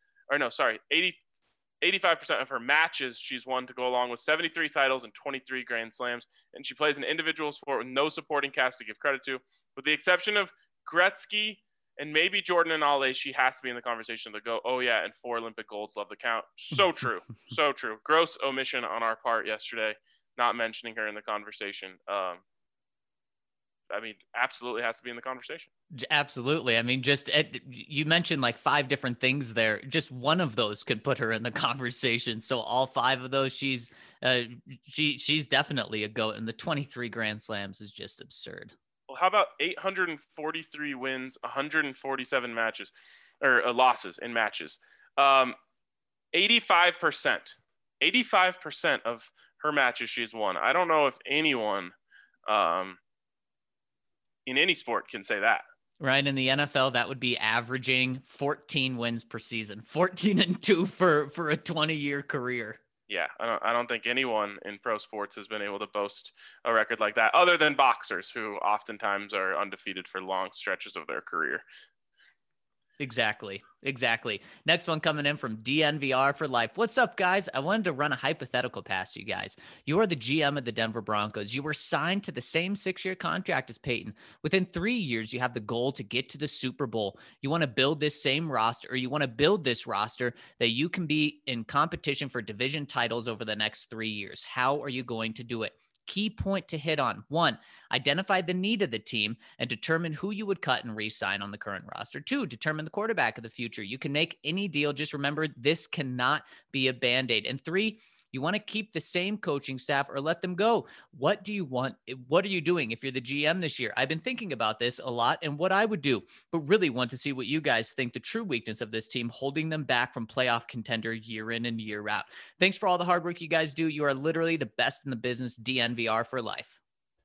85% of her matches she's won, to go along with 73 titles and 23 Grand Slams. And she plays an individual sport with no supporting cast to give credit to. With the exception of Gretzky and maybe Jordan and Ale, she has to be in the conversation to go, oh yeah, and 4 Olympic golds, love the count. So true. So true. Gross omission on our part yesterday, not mentioning her in the conversation. Absolutely has to be in the conversation. Absolutely. I mean, you mentioned 5 different things there. Just one of those could put her in the conversation. So all 5 of those, she's definitely a GOAT, and the 23 Grand Slams is just absurd. Well, How about 843 wins, 147 matches, or losses in matches? 85%. 85% of her matches she's won. I don't know if anyone in any sport can say that. Right. In the NFL, that would be averaging 14 wins per season, 14-2 for a 20-year career. Yeah, I don't think anyone in pro sports has been able to boast a record like that, other than boxers, who oftentimes are undefeated for long stretches of their career. Exactly. Next one coming in from DNVR for life. What's up, guys? I wanted to run a hypothetical past you guys. You are the GM of the Denver Broncos. You were signed to the same 6-year contract as Peyton. Within 3 years, you have the goal to get to the Super Bowl. You want to build this same roster, or you want to build this roster that you can be in competition for division titles over the next 3 years. How are you going to do it? Key point to hit on: 1, identify the need of the team and determine who you would cut and re-sign on the current roster. 2, determine the quarterback of the future. You can make any deal. Just remember, this cannot be a Band-Aid. And 3, you want to keep the same coaching staff or let them go. What do you want? What are you doing if you're the GM this year? I've been thinking about this a lot and what I would do, but really want to see what you guys think the true weakness of this team holding them back from playoff contender year in and year out. Thanks for all the hard work you guys do. You are literally the best in the business. DNVR for life.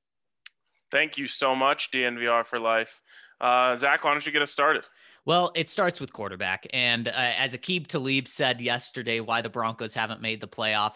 Thank you so much, DNVR for life. Zach, why don't you get us started? Well, it starts with quarterback. And as Aqib Talib said yesterday, why the Broncos haven't made the playoffs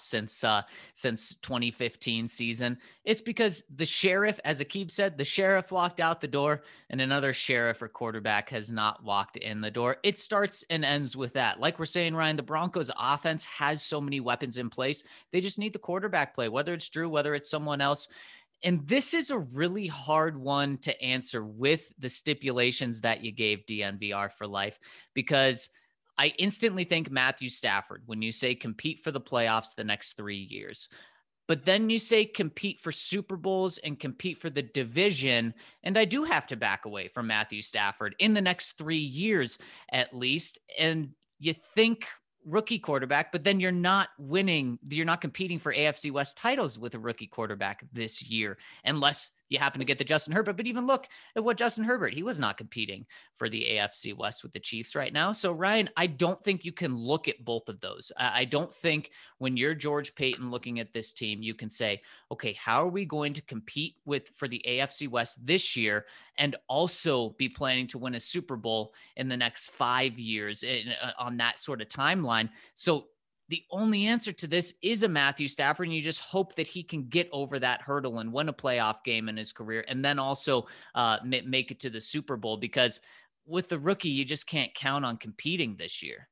since 2015 season, it's because the sheriff, as Aqib said, the sheriff walked out the door and another sheriff or quarterback has not walked in the door. It starts and ends with that. Like we're saying, Ryan, the Broncos offense has so many weapons in place. They just need the quarterback play, whether it's Drew, whether it's someone else. And this is a really hard one to answer with the stipulations that you gave, DNVR for life, because I instantly think Matthew Stafford when you say compete for the playoffs the next 3 years. But then you say compete for Super Bowls and compete for the division. And I do have to back away from Matthew Stafford in the next 3 years at least. And you think rookie quarterback, but then you're not winning. You're not competing for AFC West titles with a rookie quarterback this year, unless you happen to get the Justin Herbert. But even look at what Justin Herbert, he was not competing for the AFC West with the Chiefs right now. So Ryan, I don't think you can look at both of those. I don't think when you're George Paton looking at this team, you can say, okay, how are we going to compete for the AFC West this year and also be planning to win a Super Bowl in the next 5 years on that sort of timeline? So the only answer to this is a Matthew Stafford, and you just hope that he can get over that hurdle and win a playoff game in his career, and then also make it to the Super Bowl, because with the rookie, you just can't count on competing this year.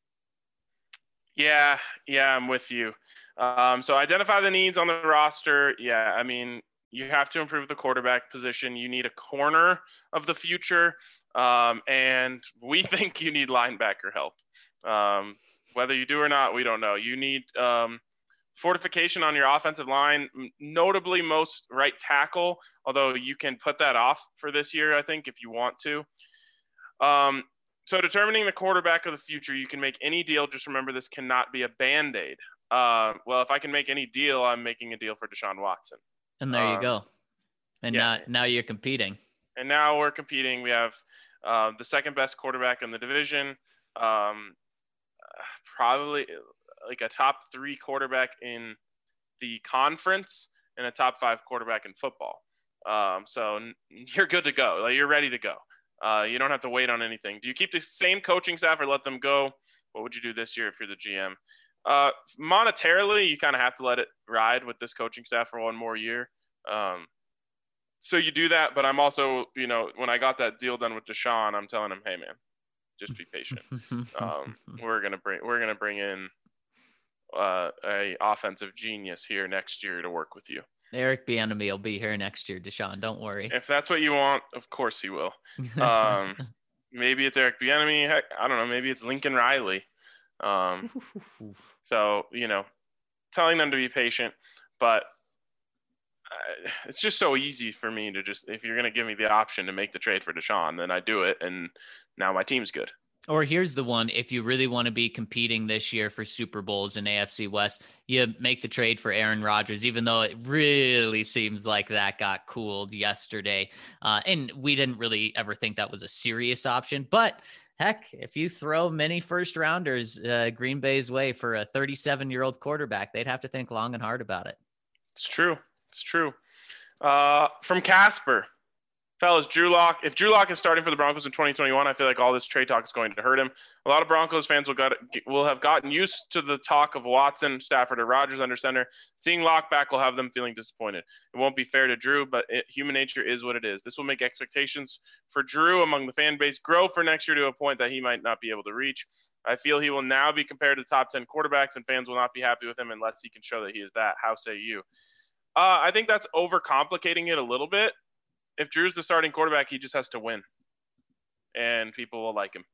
Yeah, I'm with you. So identify the needs on the roster. Yeah, I mean, you have to improve the quarterback position. You need a corner of the future, and we think you need linebacker help. Whether you do or not, we don't know. You need fortification on your offensive line, notably most right tackle, although you can put that off for this year, I think, if you want to. So determining the quarterback of the future, you can make any deal. Just remember, this cannot be a Band-Aid. Well, if I can make any deal, I'm making a deal for Deshaun Watson. And there you go. And now you're competing. And now we're competing. We have the second best quarterback in the division. Probably like a top 3 quarterback in the conference and a top 5 quarterback in football. So you're good to go. Like, you're ready to go. You don't have to wait on anything. Do you keep the same coaching staff or let them go? What would you do this year if you're the GM? Monetarily, you kind of have to let it ride with this coaching staff for one more year. So you do that, but I'm also, when I got that deal done with Deshaun, I'm telling him, hey man, just be patient. We're gonna bring in a offensive genius here next year to work with you. Eric Bieniemy will be here next year, Deshaun. Don't worry. If that's what you want, of course he will. Maybe it's Eric Bieniemy. Heck, I don't know. Maybe it's Lincoln Riley. So telling them to be patient, but it's just so easy for me to if you're going to give me the option to make the trade for Deshaun, then I do it. And now my team's good. Or here's the one. If you really want to be competing this year for Super Bowls in AFC West, you make the trade for Aaron Rodgers, even though it really seems like that got cooled yesterday. And we didn't really ever think that was a serious option. But heck, if you throw many first rounders Green Bay's way for a 37-year-old quarterback, they'd have to think long and hard about it. It's true. It's true. From Casper. Fellas, Drew Lock. If Drew Lock is starting for the Broncos in 2021, I feel like all this trade talk is going to hurt him. A lot of Broncos fans will have gotten used to the talk of Watson, Stafford, or Rodgers under center. Seeing Lock back will have them feeling disappointed. It won't be fair to Drew, but human nature is what it is. This will make expectations for Drew among the fan base grow for next year to a point that he might not be able to reach. I feel he will now be compared to top 10 quarterbacks, and fans will not be happy with him unless he can show that he is that. How say you? I think that's overcomplicating it a little bit. If Drew's the starting quarterback, he just has to win, and people will like him.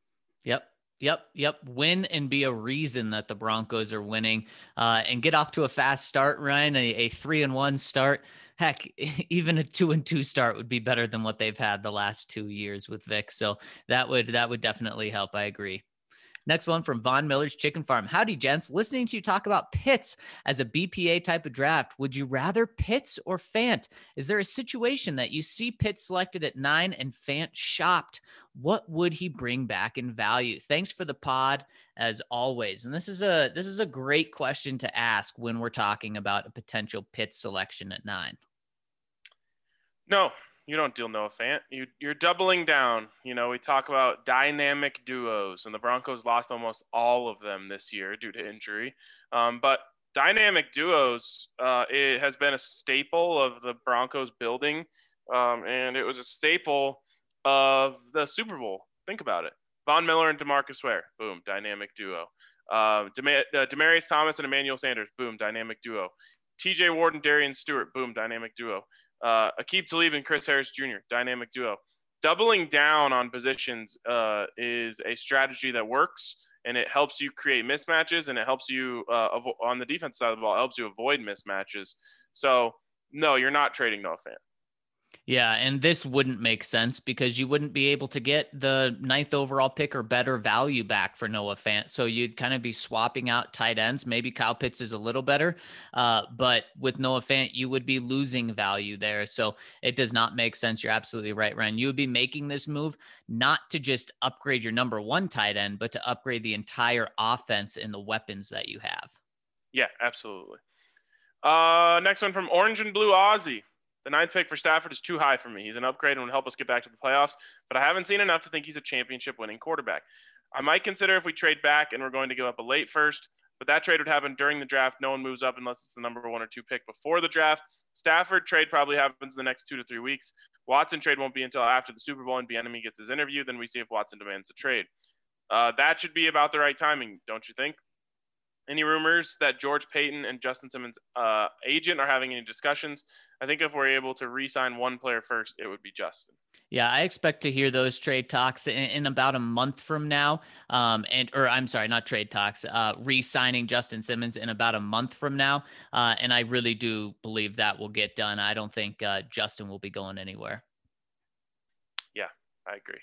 Yep. Win and be a reason that the Broncos are winning, and get off to a fast start, Ryan. A 3-1 start. Heck, even a 2-2 start would be better than what they've had the last 2 years with Vic. So that would definitely help. I agree. Next one from Von Miller's Chicken Farm. Howdy, gents. Listening to you talk about Pitts as a BPA type of draft, would you rather Pitts or Fant? Is there a situation that you see Pitts selected at 9 and Fant shopped? What would he bring back in value? Thanks for the pod, as always. And this is a great question to ask when we're talking about a potential Pitts selection at 9. No. You don't deal Noah Fant. You're doubling down. You know, we talk about dynamic duos, and the Broncos lost almost all of them this year due to injury. But dynamic duos, it has been a staple of the Broncos building, and it was a staple of the Super Bowl. Think about it. Von Miller and DeMarcus Ware, boom, dynamic duo. Demaryius Thomas and Emmanuel Sanders, boom, dynamic duo. TJ Ward and Darian Stewart, boom, dynamic duo. Aqib Talib and Chris Harris Jr., dynamic duo. Doubling down on positions is a strategy that works, and it helps you create mismatches, and it helps you on the defense side of the ball, it helps you avoid mismatches. So, no, you're not trading Noah Fant. Yeah, and this wouldn't make sense because you wouldn't be able to get the 9th overall pick or better value back for Noah Fant. So you'd kind of be swapping out tight ends. Maybe Kyle Pitts is a little better, but with Noah Fant, you would be losing value there. So it does not make sense. You're absolutely right, Ryan. You would be making this move not to just upgrade your number 1 tight end, but to upgrade the entire offense and the weapons that you have. Yeah, absolutely. Next one from Orange and Blue Aussie. The 9th pick for Stafford is too high for me. He's an upgrade and would help us get back to the playoffs, but I haven't seen enough to think he's a championship-winning quarterback. I might consider if we trade back and we're going to give up a late first, but that trade would happen during the draft. No one moves up unless it's the number 1 or 2 pick before the draft. Stafford trade probably happens in the next 2 to 3 weeks. Watson trade won't be until after the Super Bowl and Bieniemy gets his interview. Then we see if Watson demands a trade. That should be about the right timing, don't you think? Any rumors that George Paton and Justin Simmons' agent are having any discussions? I think if we're able to re-sign one player first, it would be Justin. Yeah, I expect to hear those trade talks in about a month from now. Not trade talks, re-signing Justin Simmons in about a month from now. And I really do believe that will get done. I don't think Justin will be going anywhere. Yeah, I agree.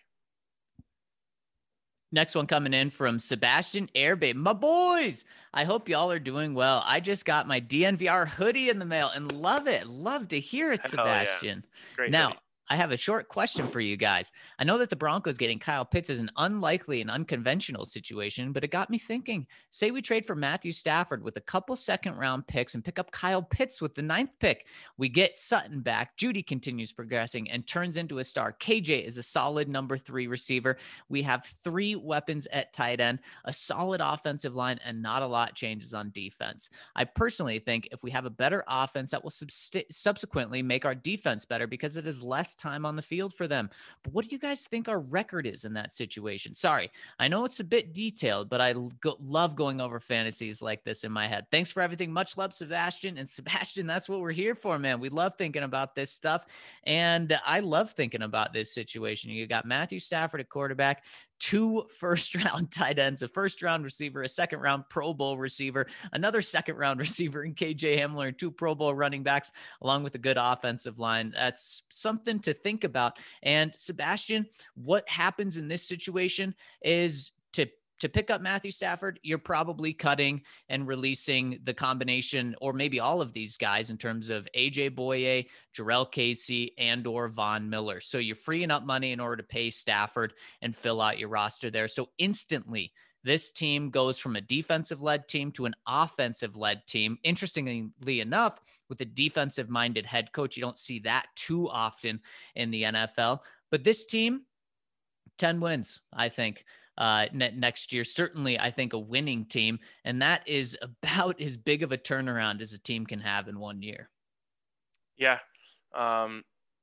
Next one coming in from Sebastian Airbay. My boys, I hope y'all are doing well. I just got my DNVR hoodie in the mail and love it. Love to hear it, Sebastian. Yeah. Great now, hoodie. I have a short question for you guys. I know that the Broncos getting Kyle Pitts is an unlikely and unconventional situation, but it got me thinking. Say we trade for Matthew Stafford with a couple second-round picks and pick up Kyle Pitts with the 9th pick. We get Sutton back. Judy continues progressing and turns into a star. KJ is a solid number 3 receiver. We have 3 weapons at tight end, a solid offensive line, and not a lot changes on defense. I personally think if we have a better offense, that will subsequently make our defense better because it is less time on the field for them. But what do you guys think our record is in that situation? Sorry, I know it's a bit detailed, but I love going over fantasies like this in my head. Thanks for everything. Much love, Sebastian. And Sebastian, that's what we're here for, man. We love thinking about this stuff. And I love thinking about this situation. You got Matthew Stafford at quarterback, 2 first-round tight ends, a first-round receiver, a second-round Pro Bowl receiver, another second-round receiver in KJ Hamler, and 2 Pro Bowl running backs, along with a good offensive line. That's something to think about. And Sebastian, what happens in this situation is to pick up Matthew Stafford, you're probably cutting and releasing the combination, or maybe all of these guys, in terms of AJ Boye, Jarrell Casey, and or Von Miller. So you're freeing up money in order to pay Stafford and fill out your roster there. So instantly, this team goes from a defensive-led team to an offensive-led team. Interestingly enough, with a defensive-minded head coach, you don't see that too often in the NFL. But this team, 10 wins, I think. Next year. Certainly, I think a winning team, and that is about as big of a turnaround as a team can have in 1 year. Yeah. I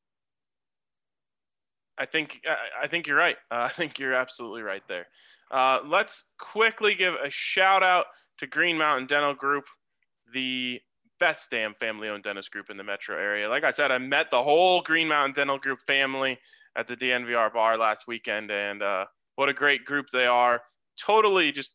think you're right. I think you're absolutely right there. Let's quickly give a shout out to Green Mountain Dental Group, the best damn family-owned dentist group in the metro area. Like I said, I met the whole Green Mountain Dental Group family at the DNVR bar last weekend, and what a great group they are. Totally just,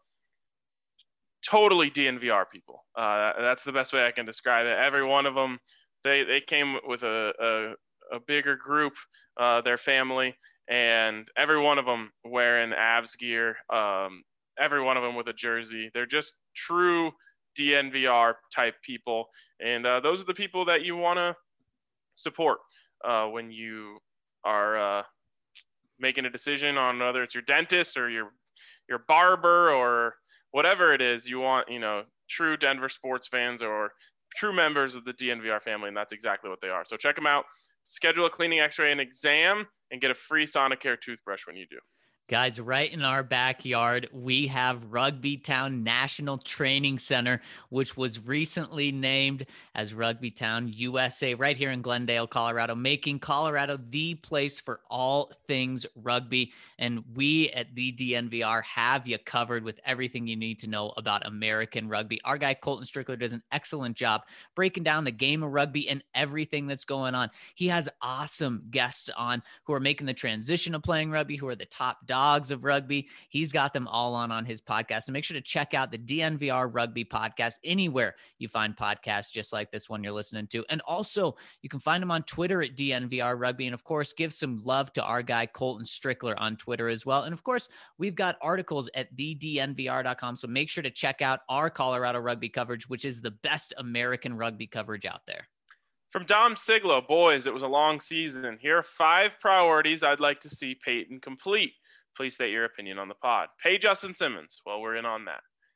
totally DNVR people. That's the best way I can describe it. Every one of them, they came with a bigger group, their family, and every one of them wearing Avs gear, every one of them with a jersey. They're just true DNVR type people. And those are the people that you want to support when you are making a decision on whether it's your dentist or your barber or whatever it is. You want, true Denver sports fans or true members of the DNVR family, and that's exactly what they are. So check them out. Schedule a cleaning, x-ray, and exam, and get a free Sonicare toothbrush when you do. Guys, right in our backyard, we have Rugby Town National Training Center, which was recently named as Rugby Town USA, right here in Glendale, Colorado, making Colorado the place for all things rugby. And we at the DNVR have you covered with everything you need to know about American rugby. Our guy, Colton Strickler, does an excellent job breaking down the game of rugby and everything that's going on. He has awesome guests on who are making the transition of playing rugby, who are the top dogs of rugby. He's got them all on his podcast. So make sure to check out the DNVR Rugby Podcast anywhere you find podcasts just like this one you're listening to. And also, you can find him on Twitter at DNVR Rugby. And of course, give some love to our guy, Colton Strickler, on Twitter as well. And of course, we've got articles at thednvr.com. So make sure to check out our Colorado rugby coverage, which is the best American rugby coverage out there. From Dom Siglo, boys, it was a long season. Here are 5 priorities I'd like to see Peyton complete. Please state your opinion on the pod. Pay Justin Simmons. Well, we're in on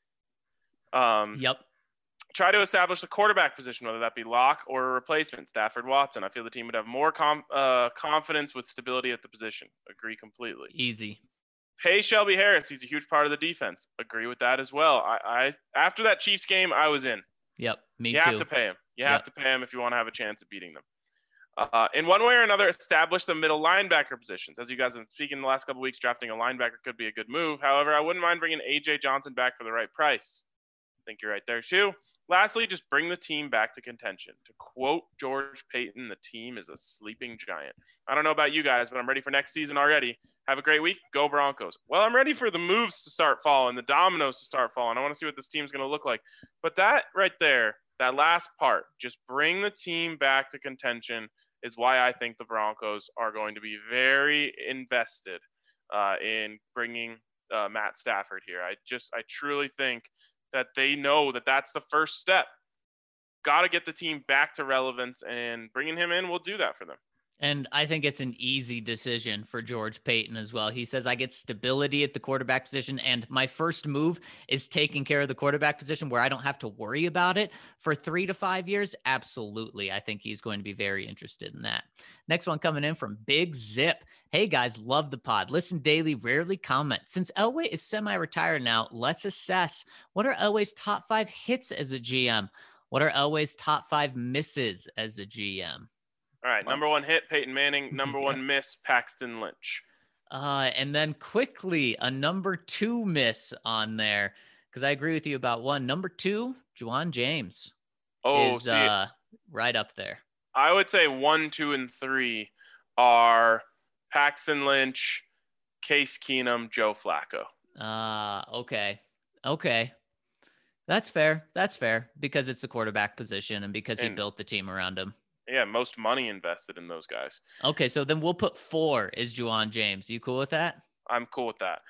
that. Yep. Try to establish the quarterback position, whether that be lock or a replacement, Stafford Watson. I feel the team would have more confidence with stability at the position. Agree completely. Easy. Pay Shelby Harris. He's a huge part of the defense. Agree with that as well. I after that Chiefs game, I was in. Yep, me too. You have to pay him. You have to pay him if you want to have a chance at beating them. In one way or another, establish the middle linebacker positions. As you guys have been speaking in the last couple of weeks, drafting a linebacker could be a good move. However, I wouldn't mind bringing A.J. Johnson back for the right price. I think you're right there, too. Lastly, just bring the team back to contention. To quote George Payton, the team is a sleeping giant. I don't know about you guys, but I'm ready for next season already. Have a great week. Go Broncos. Well, I'm ready for the moves to start falling, the dominoes to start falling. I want to see what this team's going to look like. But that right there, that last part, just bring the team back to contention, is why I think the Broncos are going to be very invested in bringing Matt Stafford here. I truly think that they know that that's the first step. Got to get the team back to relevance, and bringing him in will do that for them. And I think it's an easy decision for George Payton as well. He says, I get stability at the quarterback position, and my first move is taking care of the quarterback position where I don't have to worry about it for 3 to 5 years. Absolutely. I think he's going to be very interested in that. Next one coming in from Big Zip. Hey guys, love the pod. Listen daily, rarely comment. Since Elway is semi-retired now, let's assess what are Elway's top 5 hits as a GM? What are Elway's top 5 misses as a GM? All right, number 1 hit, Peyton Manning. Number 1 miss, Paxton Lynch. And then quickly, a number 2 miss on there, because I agree with you about 1. Number 2, Juwan James is right up there. I would say 1, 2, and 3 are Paxton Lynch, Case Keenum, Joe Flacco. Okay. That's fair because it's the quarterback position and because he built the team around him. Yeah, most money invested in those guys. Okay, so then we'll put 4 is Juwan James. You cool with that? I'm cool with that.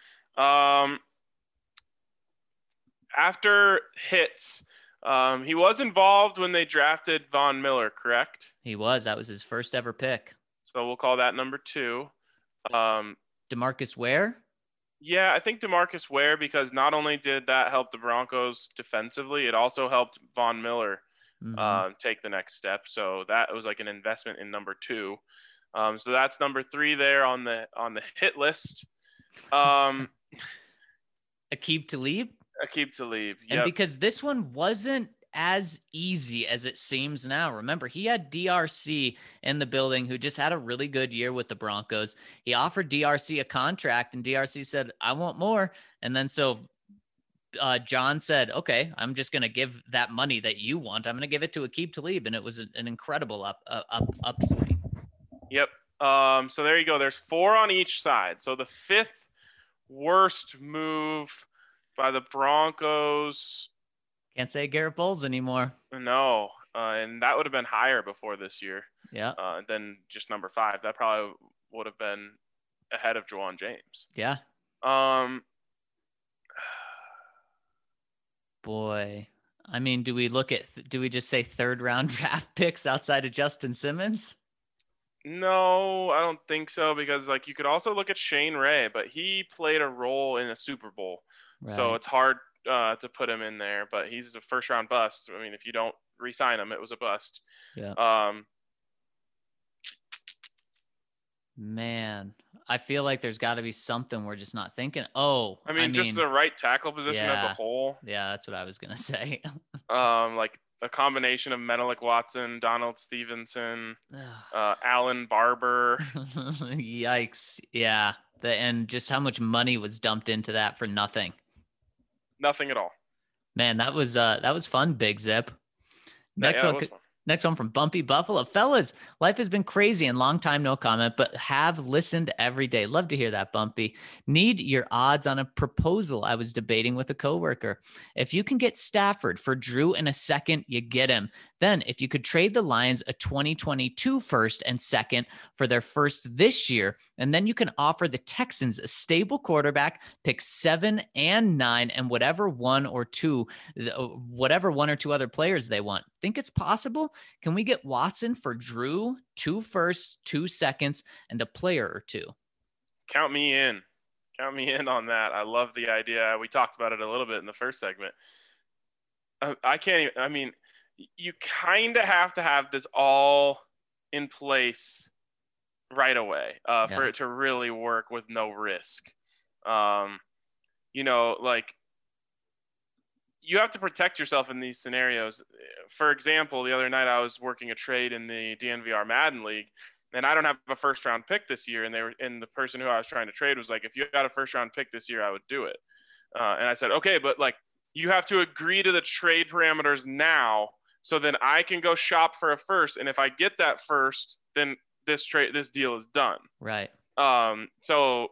After hits, he was involved when they drafted Von Miller, correct? He was. That was his first ever pick. So we'll call that number 2. DeMarcus Ware? Yeah, I think DeMarcus Ware, because not only did that help the Broncos defensively, it also helped Von Miller take the next step. So that was like an investment in number 2. So that's number 3 there on the hit list. Aqib Talib? Aqib Talib. Yep. And because this one wasn't as easy as it seems now. Remember, he had DRC in the building who just had a really good year with the Broncos. He offered DRC a contract and DRC said, I want more. And then so John said, okay, I'm just going to give that money that you want. I'm going to give it to Aqib Talib. And it was an incredible upswing. Yep. So there you go. There's 4 on each side. So the 5th worst move by the Broncos. Can't say Garrett Bowles anymore. No. And that would have been higher before this year. Yeah. Than just number 5. That probably would have been ahead of Juwan James. Yeah. Boy. I mean, do we just say 3rd round draft picks outside of Justin Simmons? No, I don't think so, because like you could also look at Shane Ray, but he played a role in a Super Bowl. Right. So it's hard to put him in there, but he's a 1st round bust. I mean, if you don't re-sign him, it was a bust. Yeah. Man, I feel like there's got to be something we're just not thinking. I mean, just the right tackle position as a whole. Yeah, that's what I was gonna say. Like a combination of Menelik Watson, Donald Stevenson, Alan Barber. Yikes! Yeah, and just how much money was dumped into that for nothing. Nothing at all. Man, that was fun, Big Zip. Next one from Bumpy Buffalo. Fellas, life has been crazy and long time no comment, but have listened every day. Love to hear that, Bumpy. Need your odds on a proposal I was debating with a coworker. If you can get Stafford for Drew in a second, you get him. Then if you could trade the Lions a 2022 first and second for their first this year, and then you can offer the Texans a stable quarterback, pick 7 and 9, and whatever one or two other players they want. Think it's possible? Can we get Watson for Drew, 2 firsts, 2 seconds, and a player or 2? Count me in. Count me in on that. I love the idea. We talked about it a little bit in the first segment. You kind of have to have this all in place right away for it to really work with no risk. You have to protect yourself in these scenarios. For example, the other night I was working a trade in the DNVR Madden League, and I don't have a 1st round pick this year. And the person who I was trying to trade was like, if you got a 1st round pick this year, I would do it. And I said, okay, but like you have to agree to the trade parameters now, so then I can go shop for a 1st. And if I get that 1st, then this deal is done. Right. So,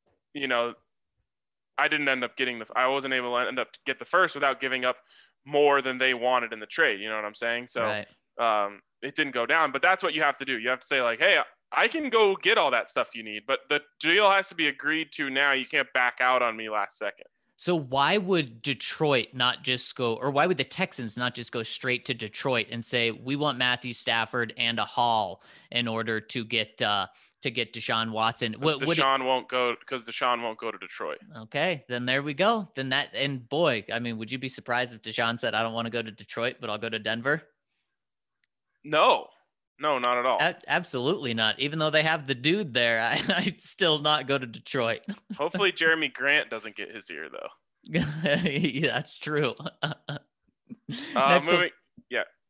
I didn't end up I wasn't able to end up to get the 1st without giving up more than they wanted in the trade. You know what I'm saying? So, right. It didn't go down, but that's what you have to do. You have to say like, hey, I can go get all that stuff you need, but the deal has to be agreed to now. You can't back out on me last second. So why would Detroit not just go, or why would the Texans not just go straight to Detroit and say, we want Matthew Stafford and a haul in order to get Deshaun Watson? Deshaun won't go to Detroit. Okay, then there we go. And boy, I mean, would you be surprised if Deshaun said, I don't want to go to Detroit, but I'll go to Denver? No, not at all. Absolutely not. Even though they have the dude there, I'd still not go to Detroit. Hopefully Jeremy Grant doesn't get his ear, though. Yeah, that's true. Next one,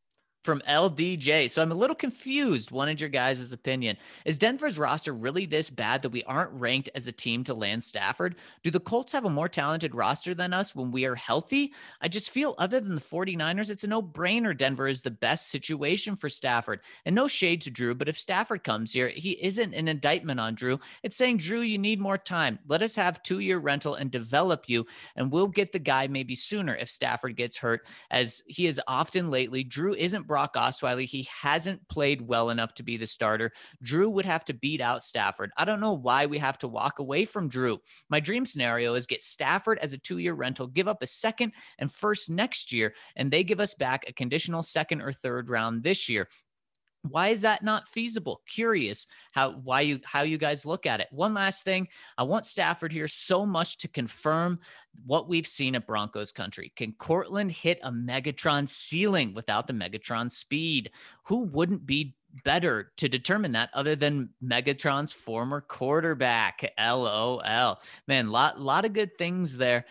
from LDJ. So I'm a little confused. Wanted your guys' opinion. Is Denver's roster really this bad that we aren't ranked as a team to land Stafford? Do the Colts have a more talented roster than us when we are healthy? I just feel other than the 49ers, it's a no-brainer Denver is the best situation for Stafford. And no shade to Drew, but if Stafford comes here, he isn't an indictment on Drew. It's saying, Drew, you need more time. Let us have 2-year rental and develop you, and we'll get the guy maybe sooner if Stafford gets hurt, as he is often lately. Drew isn't Brock Osweiler. He hasn't played well enough to be the starter. Drew would have to beat out Stafford. I don't know why we have to walk away from Drew. My dream scenario is get Stafford as a 2-year rental, give up a second and first next year, and they give us back a conditional second or third round this year. Why is that not feasible? Curious how you guys look at it. One last thing. I want Stafford here so much to confirm what we've seen at Broncos country. Can Cortland hit a Megatron ceiling without the Megatron speed? Who wouldn't be better to determine that other than Megatron's former quarterback? LOL. Man, lot of good things there.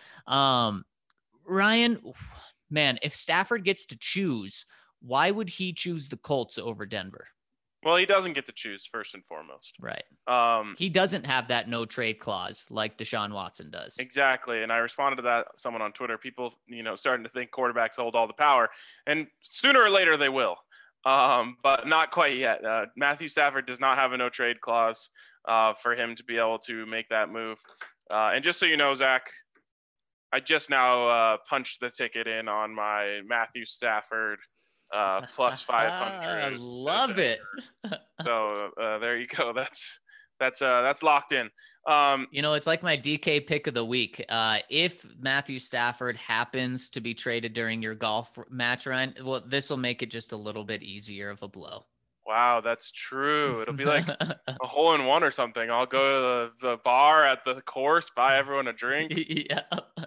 Ryan, man, if Stafford gets to choose, why would he choose the Colts over Denver? Well, he doesn't get to choose, first and foremost. Right. He doesn't have that no trade clause like Deshaun Watson does. Exactly. And I responded to that, someone on Twitter, people, starting to think quarterbacks hold all the power, and sooner or later they will. But not quite yet. Matthew Stafford does not have a no trade clause for him to be able to make that move. And just so you know, Zach, I just now punched the ticket in on my Matthew Stafford plus 500. I love it. So there you go. That's locked in. It's like my DK pick of the week. If Matthew Stafford happens to be traded during your golf match, Ryan, well, this will make it just a little bit easier of a blow. Wow, that's true. It'll be like a hole in one or something. I'll go to the bar at the course, buy everyone a drink. Yeah.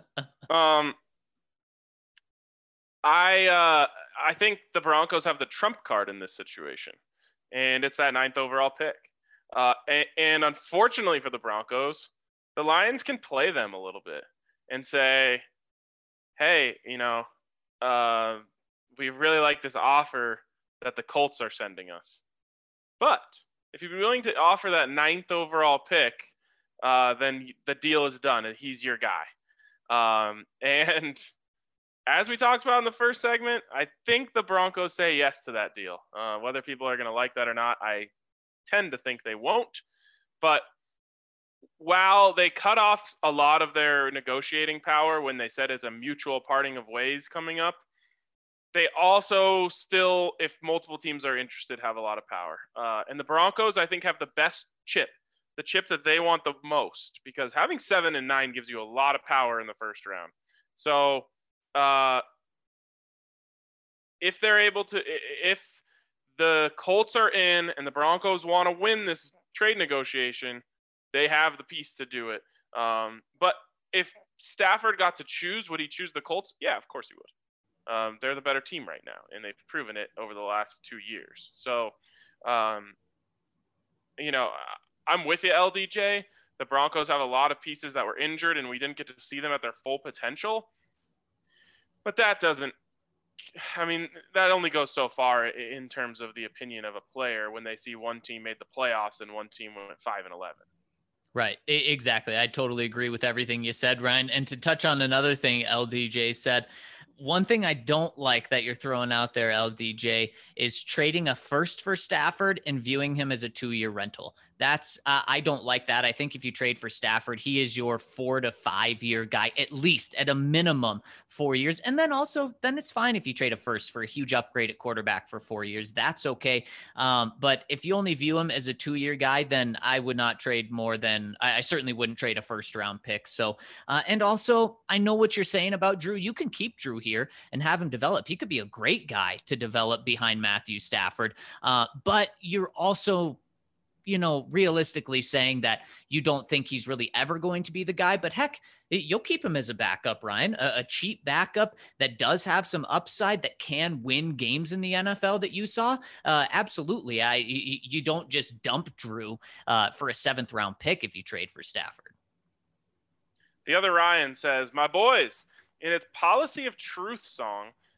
I think the Broncos have the trump card in this situation, and it's that 9th overall pick. And unfortunately for the Broncos, the Lions can play them a little bit and say, hey, we really like this offer that the Colts are sending us. But if you'd be willing to offer that 9th overall pick, then the deal is done and he's your guy. And as we talked about in the first segment, I think the Broncos say yes to that deal. Whether people are going to like that or not, I tend to think they won't. But while they cut off a lot of their negotiating power when they said it's a mutual parting of ways coming up, they also still, if multiple teams are interested, have a lot of power. And the Broncos, I think, have the best chip, the chip that they want the most, because having 7 and 9 gives you a lot of power in the first round. So if they're able to, if the Colts are in and the Broncos want to win this trade negotiation, they have the piece to do it. But if Stafford got to choose, would he choose the Colts? Yeah, of course he would. They're the better team right now, and they've proven it over the last 2 years. So, I'm with you, LDJ. The Broncos have a lot of pieces that were injured, and we didn't get to see them at their full potential. But that only goes so far in terms of the opinion of a player when they see one team made the playoffs and one team went 5-11. Right. Exactly. I totally agree with everything you said, Ryan. And to touch on another thing LDJ said, one thing I don't like that you're throwing out there, LDJ, is trading a first for Stafford and viewing him as a 2-year rental. That's I don't like that. I think if you trade for Stafford, he is your 4 to 5 year guy, at least at a minimum 4 years. And then it's fine if you trade a first for a huge upgrade at quarterback for 4 years. That's okay. But if you only view him as a 2-year guy, then I would not trade more than I certainly wouldn't trade a first round pick. So and also I know what you're saying about Drew. You can keep Drew here and have him develop. He could be a great guy to develop behind Matthew Stafford. But you're also realistically saying that you don't think he's really ever going to be the guy, but heck, you'll keep him as a backup, Ryan, a cheap backup that does have some upside that can win games in the NFL that you saw. Absolutely. You don't just dump Drew for a 7th round pick if you trade for Stafford. The other Ryan says, my boys, in its Policy of Truth song,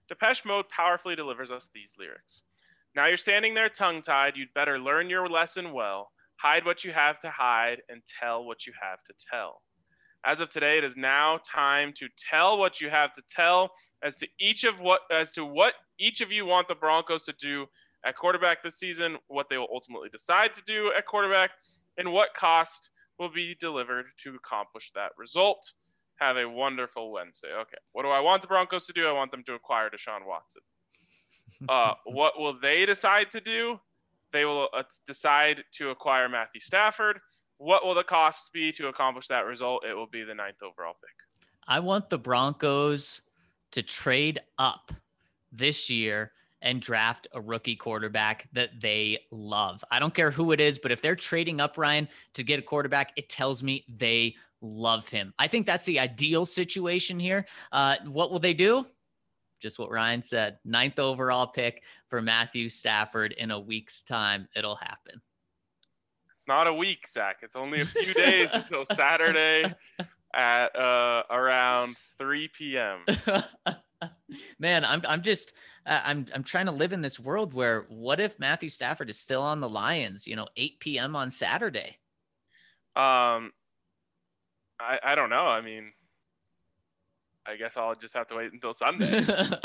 Depeche Mode powerfully delivers us these lyrics. Now you're standing there tongue-tied, you'd better learn your lesson well. Hide what you have to hide and tell what you have to tell. As of today, it is now time to tell what you have to tell as to what each of you want the Broncos to do at quarterback this season, what they will ultimately decide to do at quarterback, and what cost will be delivered to accomplish that result. Have a wonderful Wednesday. Okay, what do I want the Broncos to do? I want them to acquire Deshaun Watson. What will they decide to do? They will decide to acquire Matthew Stafford. What will the cost be to accomplish that result? It will be the 9th overall pick. I want the Broncos to trade up this year and draft a rookie quarterback that they love. I don't care who it is, but if they're trading up, Ryan, to get a quarterback, it tells me they love him. I think that's the ideal situation here. What will they do? Just what Ryan said, 9th overall pick for Matthew Stafford in a week's time. It'll happen. It's not a week, Zach. It's only a few days until Saturday at around 3 p.m. Man, I'm trying to live in this world where what if Matthew Stafford is still on the Lions, 8 p.m. on Saturday? I don't know. I mean, I guess I'll just have to wait until Sunday.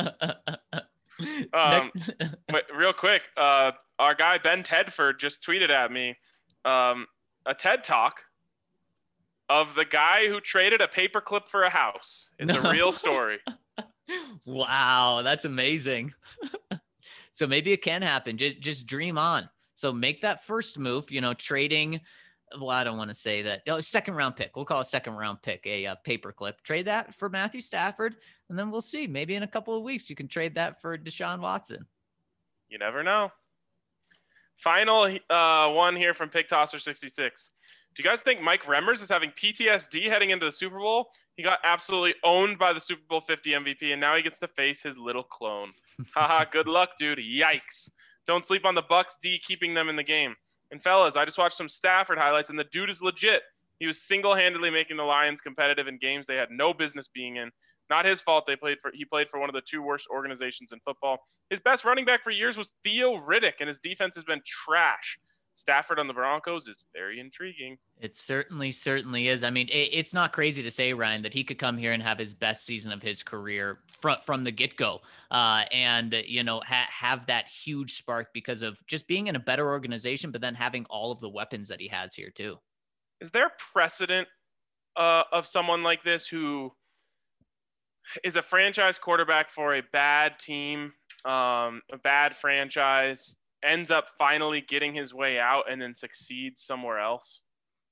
Wait, real quick, our guy Ben Tedford just tweeted at me a TED Talk of the guy who traded a paperclip for a house. It's a real story. Wow, that's amazing. So maybe it can happen. Just dream on. So make that first move, trading. Well, I don't want to say that. Second round pick. We'll call a second round pick a paperclip. Trade that for Matthew Stafford, and then we'll see. Maybe in a couple of weeks you can trade that for Deshaun Watson. You never know. Final one here from Pig Tosser 66. Do you guys think Mike Remmers is having PTSD heading into the Super Bowl? He got absolutely owned by the Super Bowl 50 MVP, and now he gets to face his little clone. Haha, good luck, dude. Yikes. Don't sleep on the Bucks D keeping them in the game. And fellas, I just watched some Stafford highlights, and the dude is legit. He was single-handedly making the Lions competitive in games they had no business being in. Not his fault. He played for one of the two worst organizations in football. His best running back for years was Theo Riddick, and his defense has been trash. Stafford on the Broncos is very intriguing. It certainly is. I mean, it's not crazy to say, Ryan, that he could come here and have his best season of his career from the get-go and have that huge spark because of just being in a better organization, but then having all of the weapons that he has here too. Is there precedent of someone like this who is a franchise quarterback for a bad team, a bad franchise, ends up finally getting his way out and then succeeds somewhere else?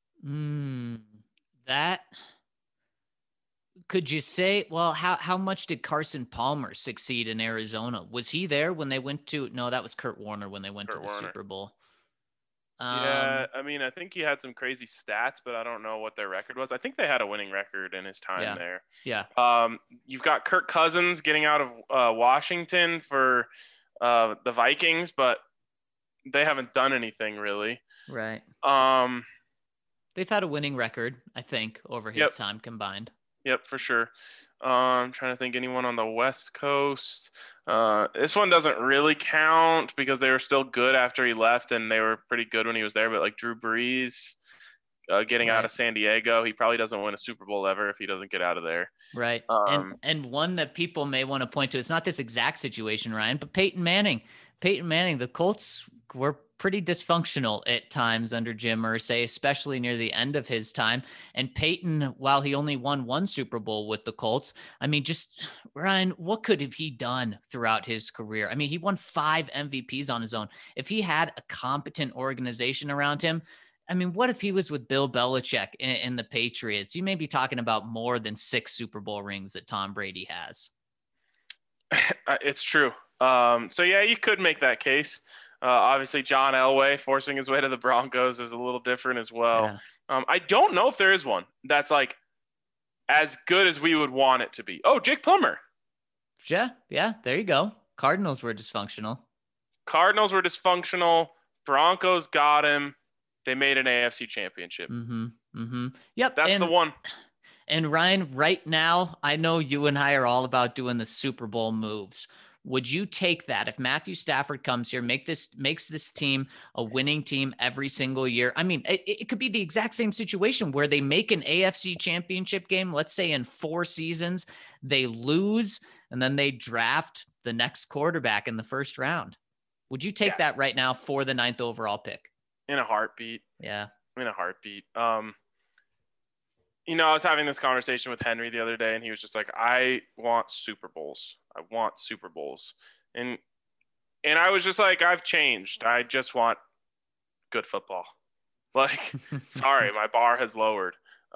That could you say, well, how much did Carson Palmer succeed in Arizona? Was he there when they went to, no, that was Kurt Warner when they went to the Super Bowl. Yeah, I mean, I think he had some crazy stats, but I don't know what their record was. I think they had a winning record in his time there. Yeah. You've got Kirk Cousins getting out of Washington for the Vikings, but they haven't done anything really. Right. They've had a winning record, I think, over his time combined. Yep, for sure. I'm trying to think anyone on the West Coast. This one doesn't really count because they were still good after he left, and they were pretty good when he was there. But like Drew Brees getting out of San Diego, he probably doesn't win a Super Bowl ever if he doesn't get out of there. Right. And one that people may want to point to, it's not this exact situation, Ryan, but Peyton Manning. The Colts were pretty dysfunctional at times under Jim Irsay, especially near the end of his time. And Peyton, while he only won one Super Bowl with the Colts, I mean, just Ryan, what could have he done throughout his career? I mean, he won 5 MVPs on his own. If he had a competent organization around him, I mean, what if he was with Bill Belichick in the Patriots? You may be talking about more than 6 Super Bowl rings that Tom Brady has. It's true. So yeah, you could make that case. Obviously, John Elway forcing his way to the Broncos is a little different as well. Yeah. I don't know if there is one that's like as good as we would want it to be. Oh, Jake Plummer. Yeah, there you go. Cardinals were dysfunctional. Broncos got him. They made an AFC championship. Mm-hmm. Yep. That's the one. And Ryan, right now, I know you and I are all about doing the Super Bowl moves. Would you take that if Matthew Stafford comes here, makes this team a winning team every single year? I mean, it could be the exact same situation where they make an AFC championship game, let's say in 4 seasons, they lose, and then they draft the next quarterback in the first round. Would you take that right now for the 9th overall pick? In a heartbeat. Yeah. In a heartbeat. You know, I was having this conversation with Henry the other day, and he was just like, I want Super Bowls. I want Super Bowls. And I was just like, I've changed. I just want good football. Like, sorry, my bar has lowered.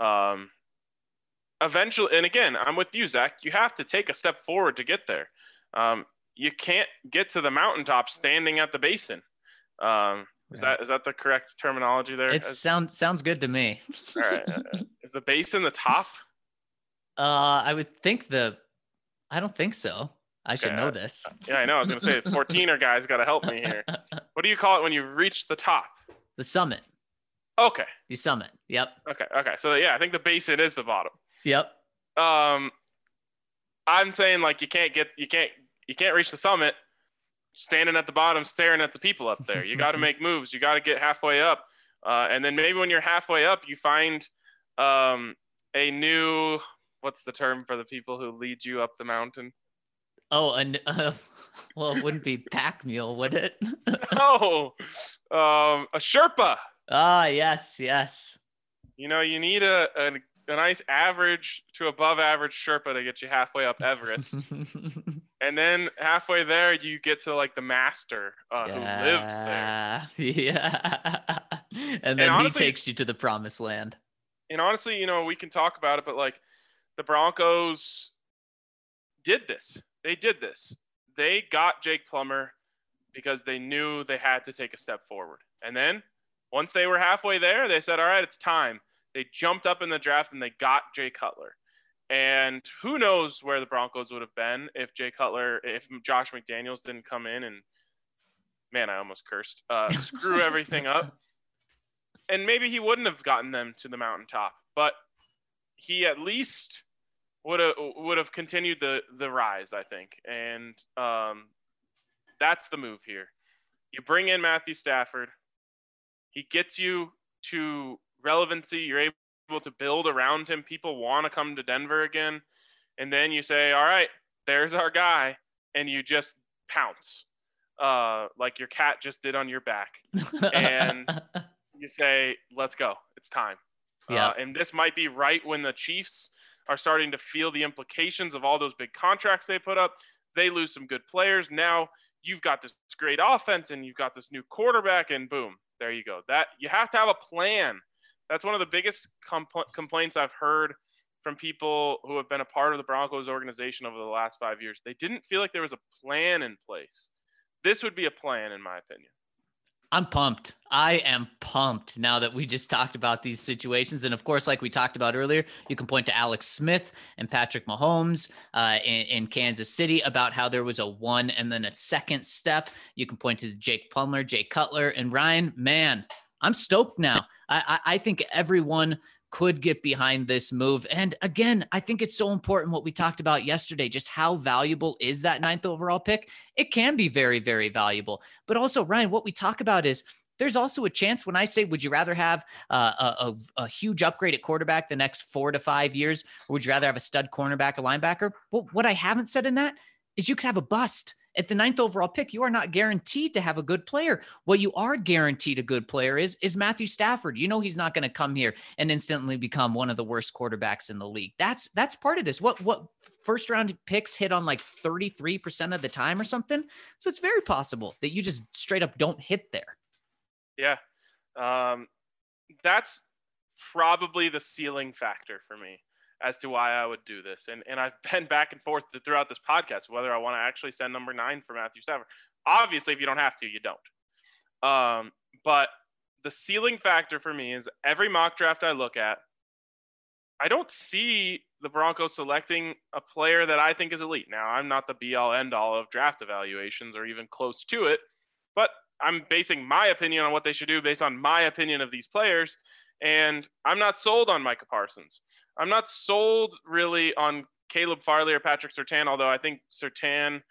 Eventually, and again, I'm with you, Zach. You have to take a step forward to get there. You can't get to the mountaintop standing at the basin. Is that the correct terminology there? It sounds good to me. All right. Is the basin the top? I would think I don't think so. I should know this. Yeah, I know. I was going to say 14er guys got to help me here. What do you call it when you reach the top? The summit. Okay. The summit. Yep. Okay. So yeah, I think the basin is the bottom. Yep. I'm saying like you can't reach the summit standing at the bottom staring at the people up there. You got to make moves. You got to get halfway up. And then maybe when you're halfway up, you find a new, what's the term for the people who lead you up the mountain? Oh, and well, it wouldn't be pack mule, would it? No, a Sherpa. Ah, yes. You know, you need a nice average to above average Sherpa to get you halfway up Everest. And then halfway there, you get to like the master who lives there. Yeah. And then honestly, he takes you to the promised land. And honestly, you know, we can talk about it, but like the Broncos did this. They did this. They got Jake Plummer because they knew they had to take a step forward. And then once they were halfway there, they said, all right, it's time. They jumped up in the draft and they got Jay Cutler. And who knows where the Broncos would have been if Josh McDaniels didn't come in and, man, I almost cursed, screw everything up. And maybe he wouldn't have gotten them to the mountaintop, but he at least would have continued the rise, I think. And that's the move here. You bring in Matthew Stafford. He gets you to relevancy. You're able to build around him. People want to come to Denver again. And then you say, all right, there's our guy. And you just pounce like your cat just did on your back. And you say, let's go. It's time. Yeah. And this might be right when the Chiefs are starting to feel the implications of all those big contracts they put up. They lose some good players. Now you've got this great offense and you've got this new quarterback, and boom, there you go. That you have to have a plan. That's one of the biggest complaints I've heard from people who have been a part of the Broncos organization over the last 5 years. They didn't feel like there was a plan in place. This would be a plan, in my opinion. I'm pumped. I am pumped now that we just talked about these situations. And of course, like we talked about earlier, you can point to Alex Smith and Patrick Mahomes in Kansas City about how there was a one and then a second step. You can point to Jake Plummer, Jay Cutler, and Ryan. Man, I'm stoked now. I think everyone could get behind this move. And again, I think it's so important what we talked about yesterday, just how valuable is that 9th overall pick? It can be very, very valuable. But also, Ryan, what we talk about is there's also a chance when I say, would you rather have a huge upgrade at quarterback the next 4 to 5 years, or would you rather have a stud cornerback, a linebacker? Well, what I haven't said in that is you could have a bust. At the 9th overall pick, you are not guaranteed to have a good player. What you are guaranteed a good player is Matthew Stafford. You know he's not going to come here and instantly become one of the worst quarterbacks in the league. That's part of this. What first round picks hit on like 33% of the time or something? So it's very possible that you just straight up don't hit there. Yeah. That's probably the ceiling factor for me as to why I would do this. And I've been back and forth throughout this podcast, whether I want to actually send number 9 for Matthew Stafford. Obviously, if you don't have to, you don't. But the ceiling factor for me is every mock draft I look at, I don't see the Broncos selecting a player that I think is elite. Now, I'm not the be-all, end-all of draft evaluations or even close to it, but I'm basing my opinion on what they should do based on my opinion of these players. And I'm not sold on Micah Parsons. I'm not sold really on Caleb Farley or Patrick Surtain, although I think Surtain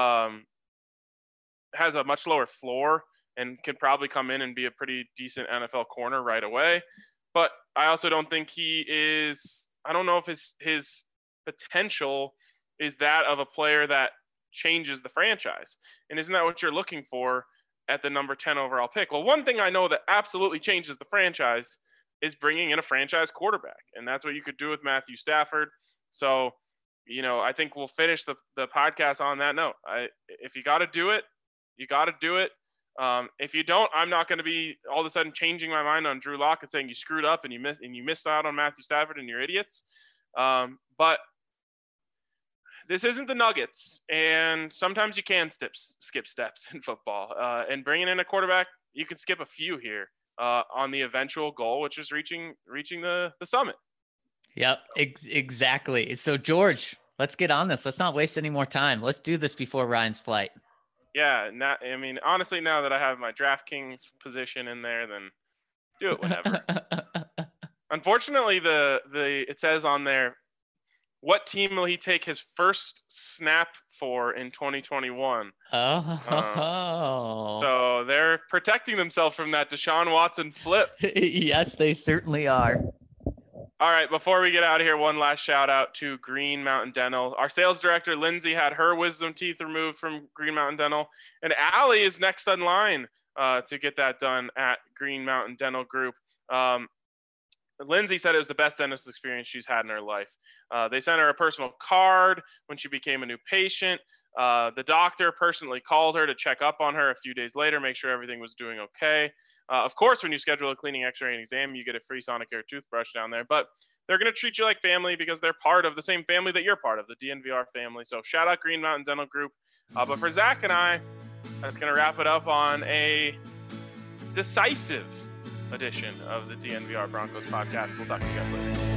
has a much lower floor and can probably come in and be a pretty decent NFL corner right away. But I also don't think he is – I don't know if his potential is that of a player that changes the franchise. And isn't that what you're looking for at the number 10 overall pick? Well, one thing I know that absolutely changes the franchise is bringing in a franchise quarterback. And that's what you could do with Matthew Stafford. So, I think we'll finish the podcast on that note. If you got to do it, you got to do it. If you don't, I'm not going to be all of a sudden changing my mind on Drew Lock and saying you screwed up and you missed out on Matthew Stafford and you're idiots. But this isn't the Nuggets, and sometimes you can skip steps in football. And bringing in a quarterback, you can skip a few here on the eventual goal, which is reaching the summit. Yep, exactly. So, George, let's get on this. Let's not waste any more time. Let's do this before Ryan's flight. Yeah, honestly, now that I have my DraftKings position in there, then do it whenever. Unfortunately, it says on there, what team will he take his first snap for in 2021? So they're protecting themselves from that Deshaun Watson flip. Yes, they certainly are. All right, before we get out of here, one last shout out to Green Mountain Dental. Our sales director, Lindsay, had her wisdom teeth removed from Green Mountain Dental, and Allie is next in line to get that done at Green Mountain Dental Group. Lindsay said it was the best dentist experience she's had in her life. They sent her a personal card when she became a new patient. The doctor personally called her to check up on her a few days later, make sure everything was doing okay. Of course, when you schedule a cleaning, x-ray, and exam, you get a free Sonicare toothbrush down there. But they're going to treat you like family because they're part of the same family that you're part of, the DNVR family. So shout out Green Mountain Dental Group. But for Zach and I, that's going to wrap it up on a decisive edition of the DNVR Broncos podcast. We'll talk to you guys later.